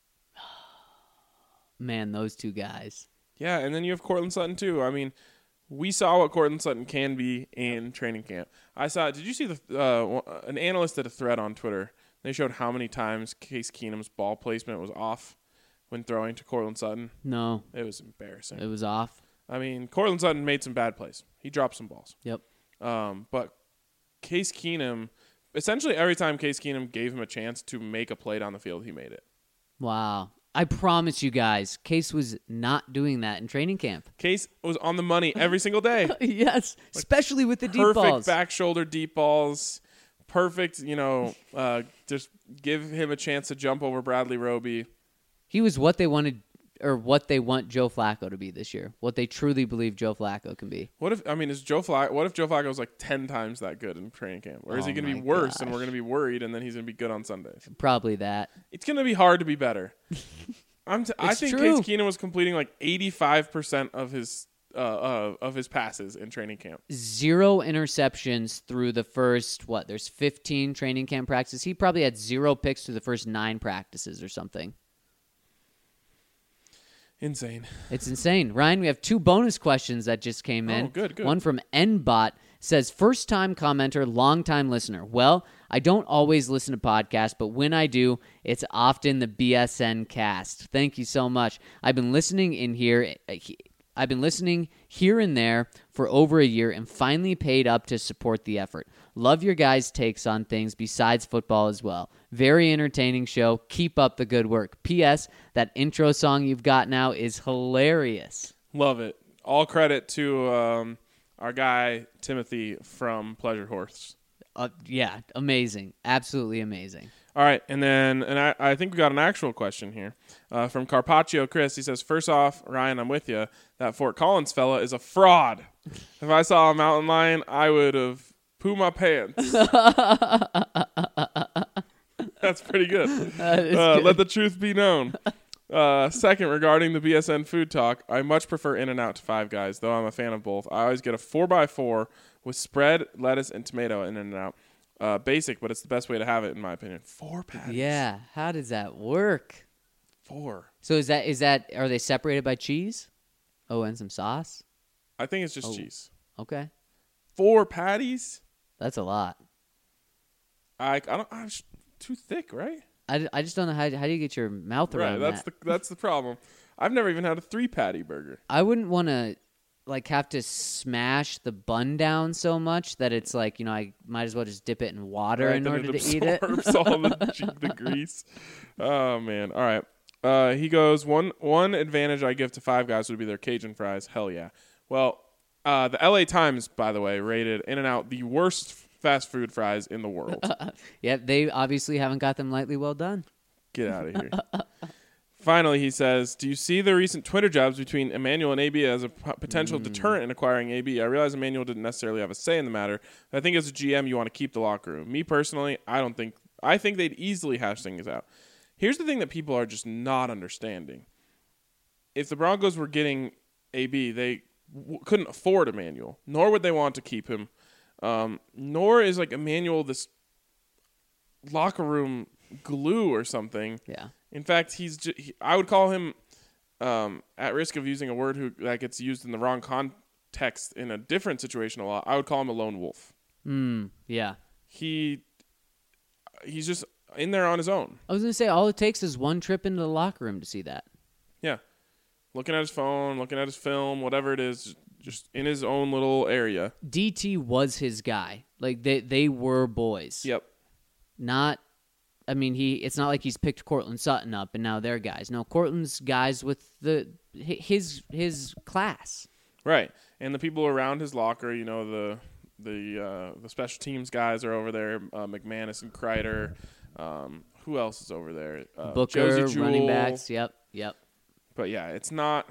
Man, those two guys. Yeah, and then you have Cortland Sutton too. I mean, we saw what Cortland Sutton can be in training camp. I saw. Did you see the uh, an analyst did a thread on Twitter? They showed how many times Case Keenum's ball placement was off when throwing to Cortland Sutton. No, It was embarrassing. it was off. I mean, Cortland Sutton made some bad plays. He dropped some balls. Yep. Um, but Case Keenum, essentially every time Case Keenum gave him a chance to make a play down the field, he made it. Wow. I promise you guys, Case was not doing that in training camp. Case was on the money every single day. Yes, especially with the deep Perfect balls. back shoulder deep balls. Perfect, you know, uh, just give him a chance to jump over Bradley Roby. He was what they wanted, or what they want Joe Flacco to be this year. What they truly believe Joe Flacco can be. What if I mean is Joe Flacco? What if Joe Flacco was like ten times that good in training camp, or is Oh he going to be my worse and gosh. we're going to be worried, and then he's going to be good on Sundays? Probably that. It's going to be hard to be better. I'm t- I It's think true. Case Keenum was completing like eighty-five percent of his uh, uh, of his passes in training camp. Zero interceptions through the first, what, there's fifteen training camp practices. He probably had zero picks through the first nine practices or something. Insane. It's insane. Ryan, we have two bonus questions that just came in. Oh, good, good. One from Nbot says, first time commenter, long time listener. Well, I don't always listen to podcasts, but when I do, it's often the B S N cast. Thank you so much. I've been listening in here. I've been listening here and there for over a year and finally paid up to support the effort. Love your guys' takes on things besides football as well. Very entertaining show. Keep up the good work. P S. That intro song you've got now is hilarious. Love it. All credit to um, our guy Timothy from Pleasure Horse. Uh, yeah, amazing. Absolutely amazing. All right, and then and I, I think we got an actual question here uh, from Carpaccio Chris. He says, first off, Ryan, I'm with you. That Fort Collins fella is a fraud. If I saw a mountain lion, I would have poo my pants. That's pretty good. is Uh, good. Let the truth be known. Uh, second, regarding the B S N food talk, I much prefer In-N-Out to Five Guys, though I'm a fan of both. I always get a four by four with spread, lettuce, and tomato in In-N-Out. Uh, basic, but it's the best way to have it, in my opinion. Four patties. Yeah, how does that work? Four. So is that is that are they separated by cheese? Oh, and some sauce? I think it's just Oh. cheese. Okay. Four patties? That's a lot. I, I don't. I'm just too thick, right? I, I just don't know how how do you get your mouth Right. around That's that? the that's the problem. I've never even had a three patty burger. I wouldn't want to like have to smash the bun down so much that it's like, you know, I might as well just dip it in water Right, in then order it to eat it. absorbs all the, che- the grease. Oh man! All right. Uh, he goes one one advantage I give to Five Guys would be their Cajun fries. Hell yeah. Well, uh, the L A Times, by the way, rated In-N-Out the worst fast food fries in the world. Yeah, they obviously haven't got them lightly well done. Get out of here. Finally, he says, do you see the recent Twitter jabs between Emmanuel and A B as a p- potential Mm. deterrent in acquiring A B? I realize Emmanuel didn't necessarily have a say in the matter, but I think as a G M, you want to keep the locker room. Me personally, I don't think – I think they'd easily hash things out. Here's the thing that people are just not understanding. If the Broncos were getting A B, they w- couldn't afford Emmanuel, nor would they want to keep him. Um, nor is, like, Emmanuel this locker room glue or something. Yeah. In fact, he's ju- he, I would call him um, at risk of using a word who that gets used in the wrong context in a different situation a lot. I would call him a lone wolf. Mm, yeah. He he's just in there on his own. I was going to say, all it takes is one trip into the locker room to see that. Yeah, looking at his phone, looking at his film, whatever it is, just in his own little area. D T was his guy. Like, they, they were boys. Yep. Not I mean, he. It's not like he's picked Cortland Sutton up and now they're guys. No, Cortland's guys with the his his class. Right, and the people around his locker, you know, the the uh, the special teams guys are over there, uh, McManus and Kreider. Um, who else is over there? Uh, Booker, Josie Jewell. running backs. Yep, yep. But yeah, it's not.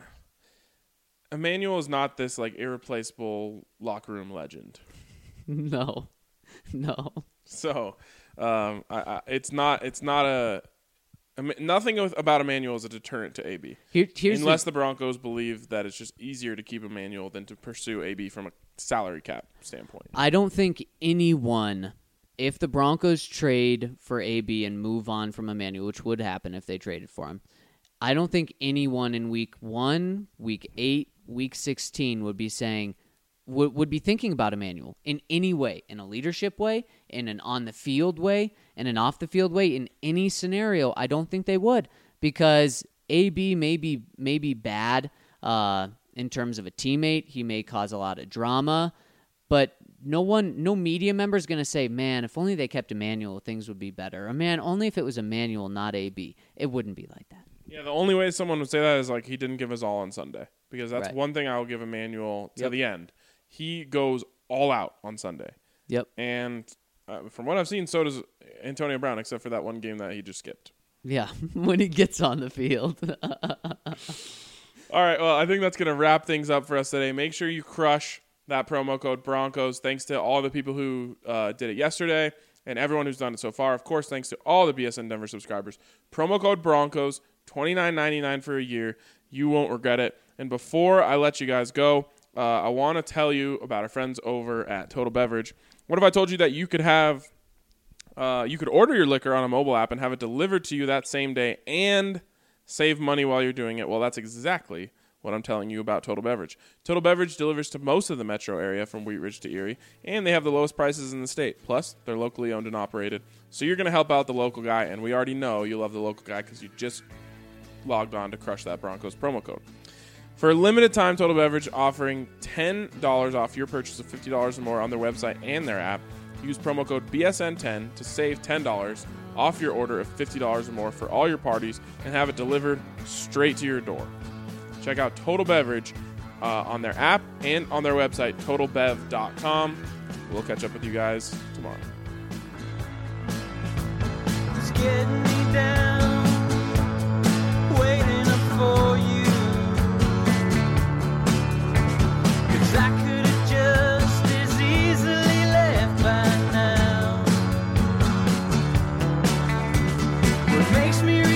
Emmanuel is not this like irreplaceable locker room legend. No, no. So, um, I, I, it's not. It's not a. Nothing about Emmanuel is a deterrent to A B. Here, here's Unless the, the Broncos believe that it's just easier to keep Emmanuel than to pursue A B from a salary cap standpoint. I don't think anyone, if the Broncos trade for A B and move on from Emmanuel, which would happen if they traded for him, I don't think anyone in week one, week eight, week sixteen would be saying, would, would be thinking about Emmanuel in any way, in a leadership way, in an on-the-field way, in an off-the-field way, in any scenario. I don't think they would, because A B may be, may be bad uh, in terms of a teammate. He may cause a lot of drama, but no one, no media member is going to say, man, if only they kept Emmanuel, things would be better. Or, man, only if it was Emmanuel, not A B. It wouldn't be like that. Yeah, the only way someone would say that is like he didn't give his all on Sunday, because that's Right. one thing I will give Emmanuel to Yep. the end. He goes all out on Sunday. Yep. And uh, from what I've seen, so does Antonio Brown, except for that one game that he just skipped. Yeah, when he gets on the field. All right, well, I think that's going to wrap things up for us today. Make sure you crush that promo code Broncos. Thanks to all the people who uh, did it yesterday and everyone who's done it so far. Of course, thanks to all the B S N Denver subscribers. Promo code Broncos, twenty-nine ninety-nine for a year. You won't regret it. And before I let you guys go, uh, I want to tell you about our friends over at Total Beverage. What if I told you that you could have, uh, you could order your liquor on a mobile app and have it delivered to you that same day and save money while you're doing it? Well, that's exactly what I'm telling you about Total Beverage. Total Beverage delivers to most of the metro area from Wheat Ridge to Erie, and they have the lowest prices in the state. Plus, they're locally owned and operated. So you're going to help out the local guy, and we already know you love the local guy because you just logged on to crush that Broncos promo code. For a limited time, Total Beverage offering ten dollars off your purchase of fifty dollars or more on their website and their app. Use promo code B S N ten to save ten dollars off your order of fifty dollars or more for all your parties and have it delivered straight to your door. Check out Total Beverage uh, on their app and on their website, total bev dot com. We'll catch up with you guys tomorrow. It's getting me down, waiting up for you. 'Cause I could have just as easily left by now. What makes me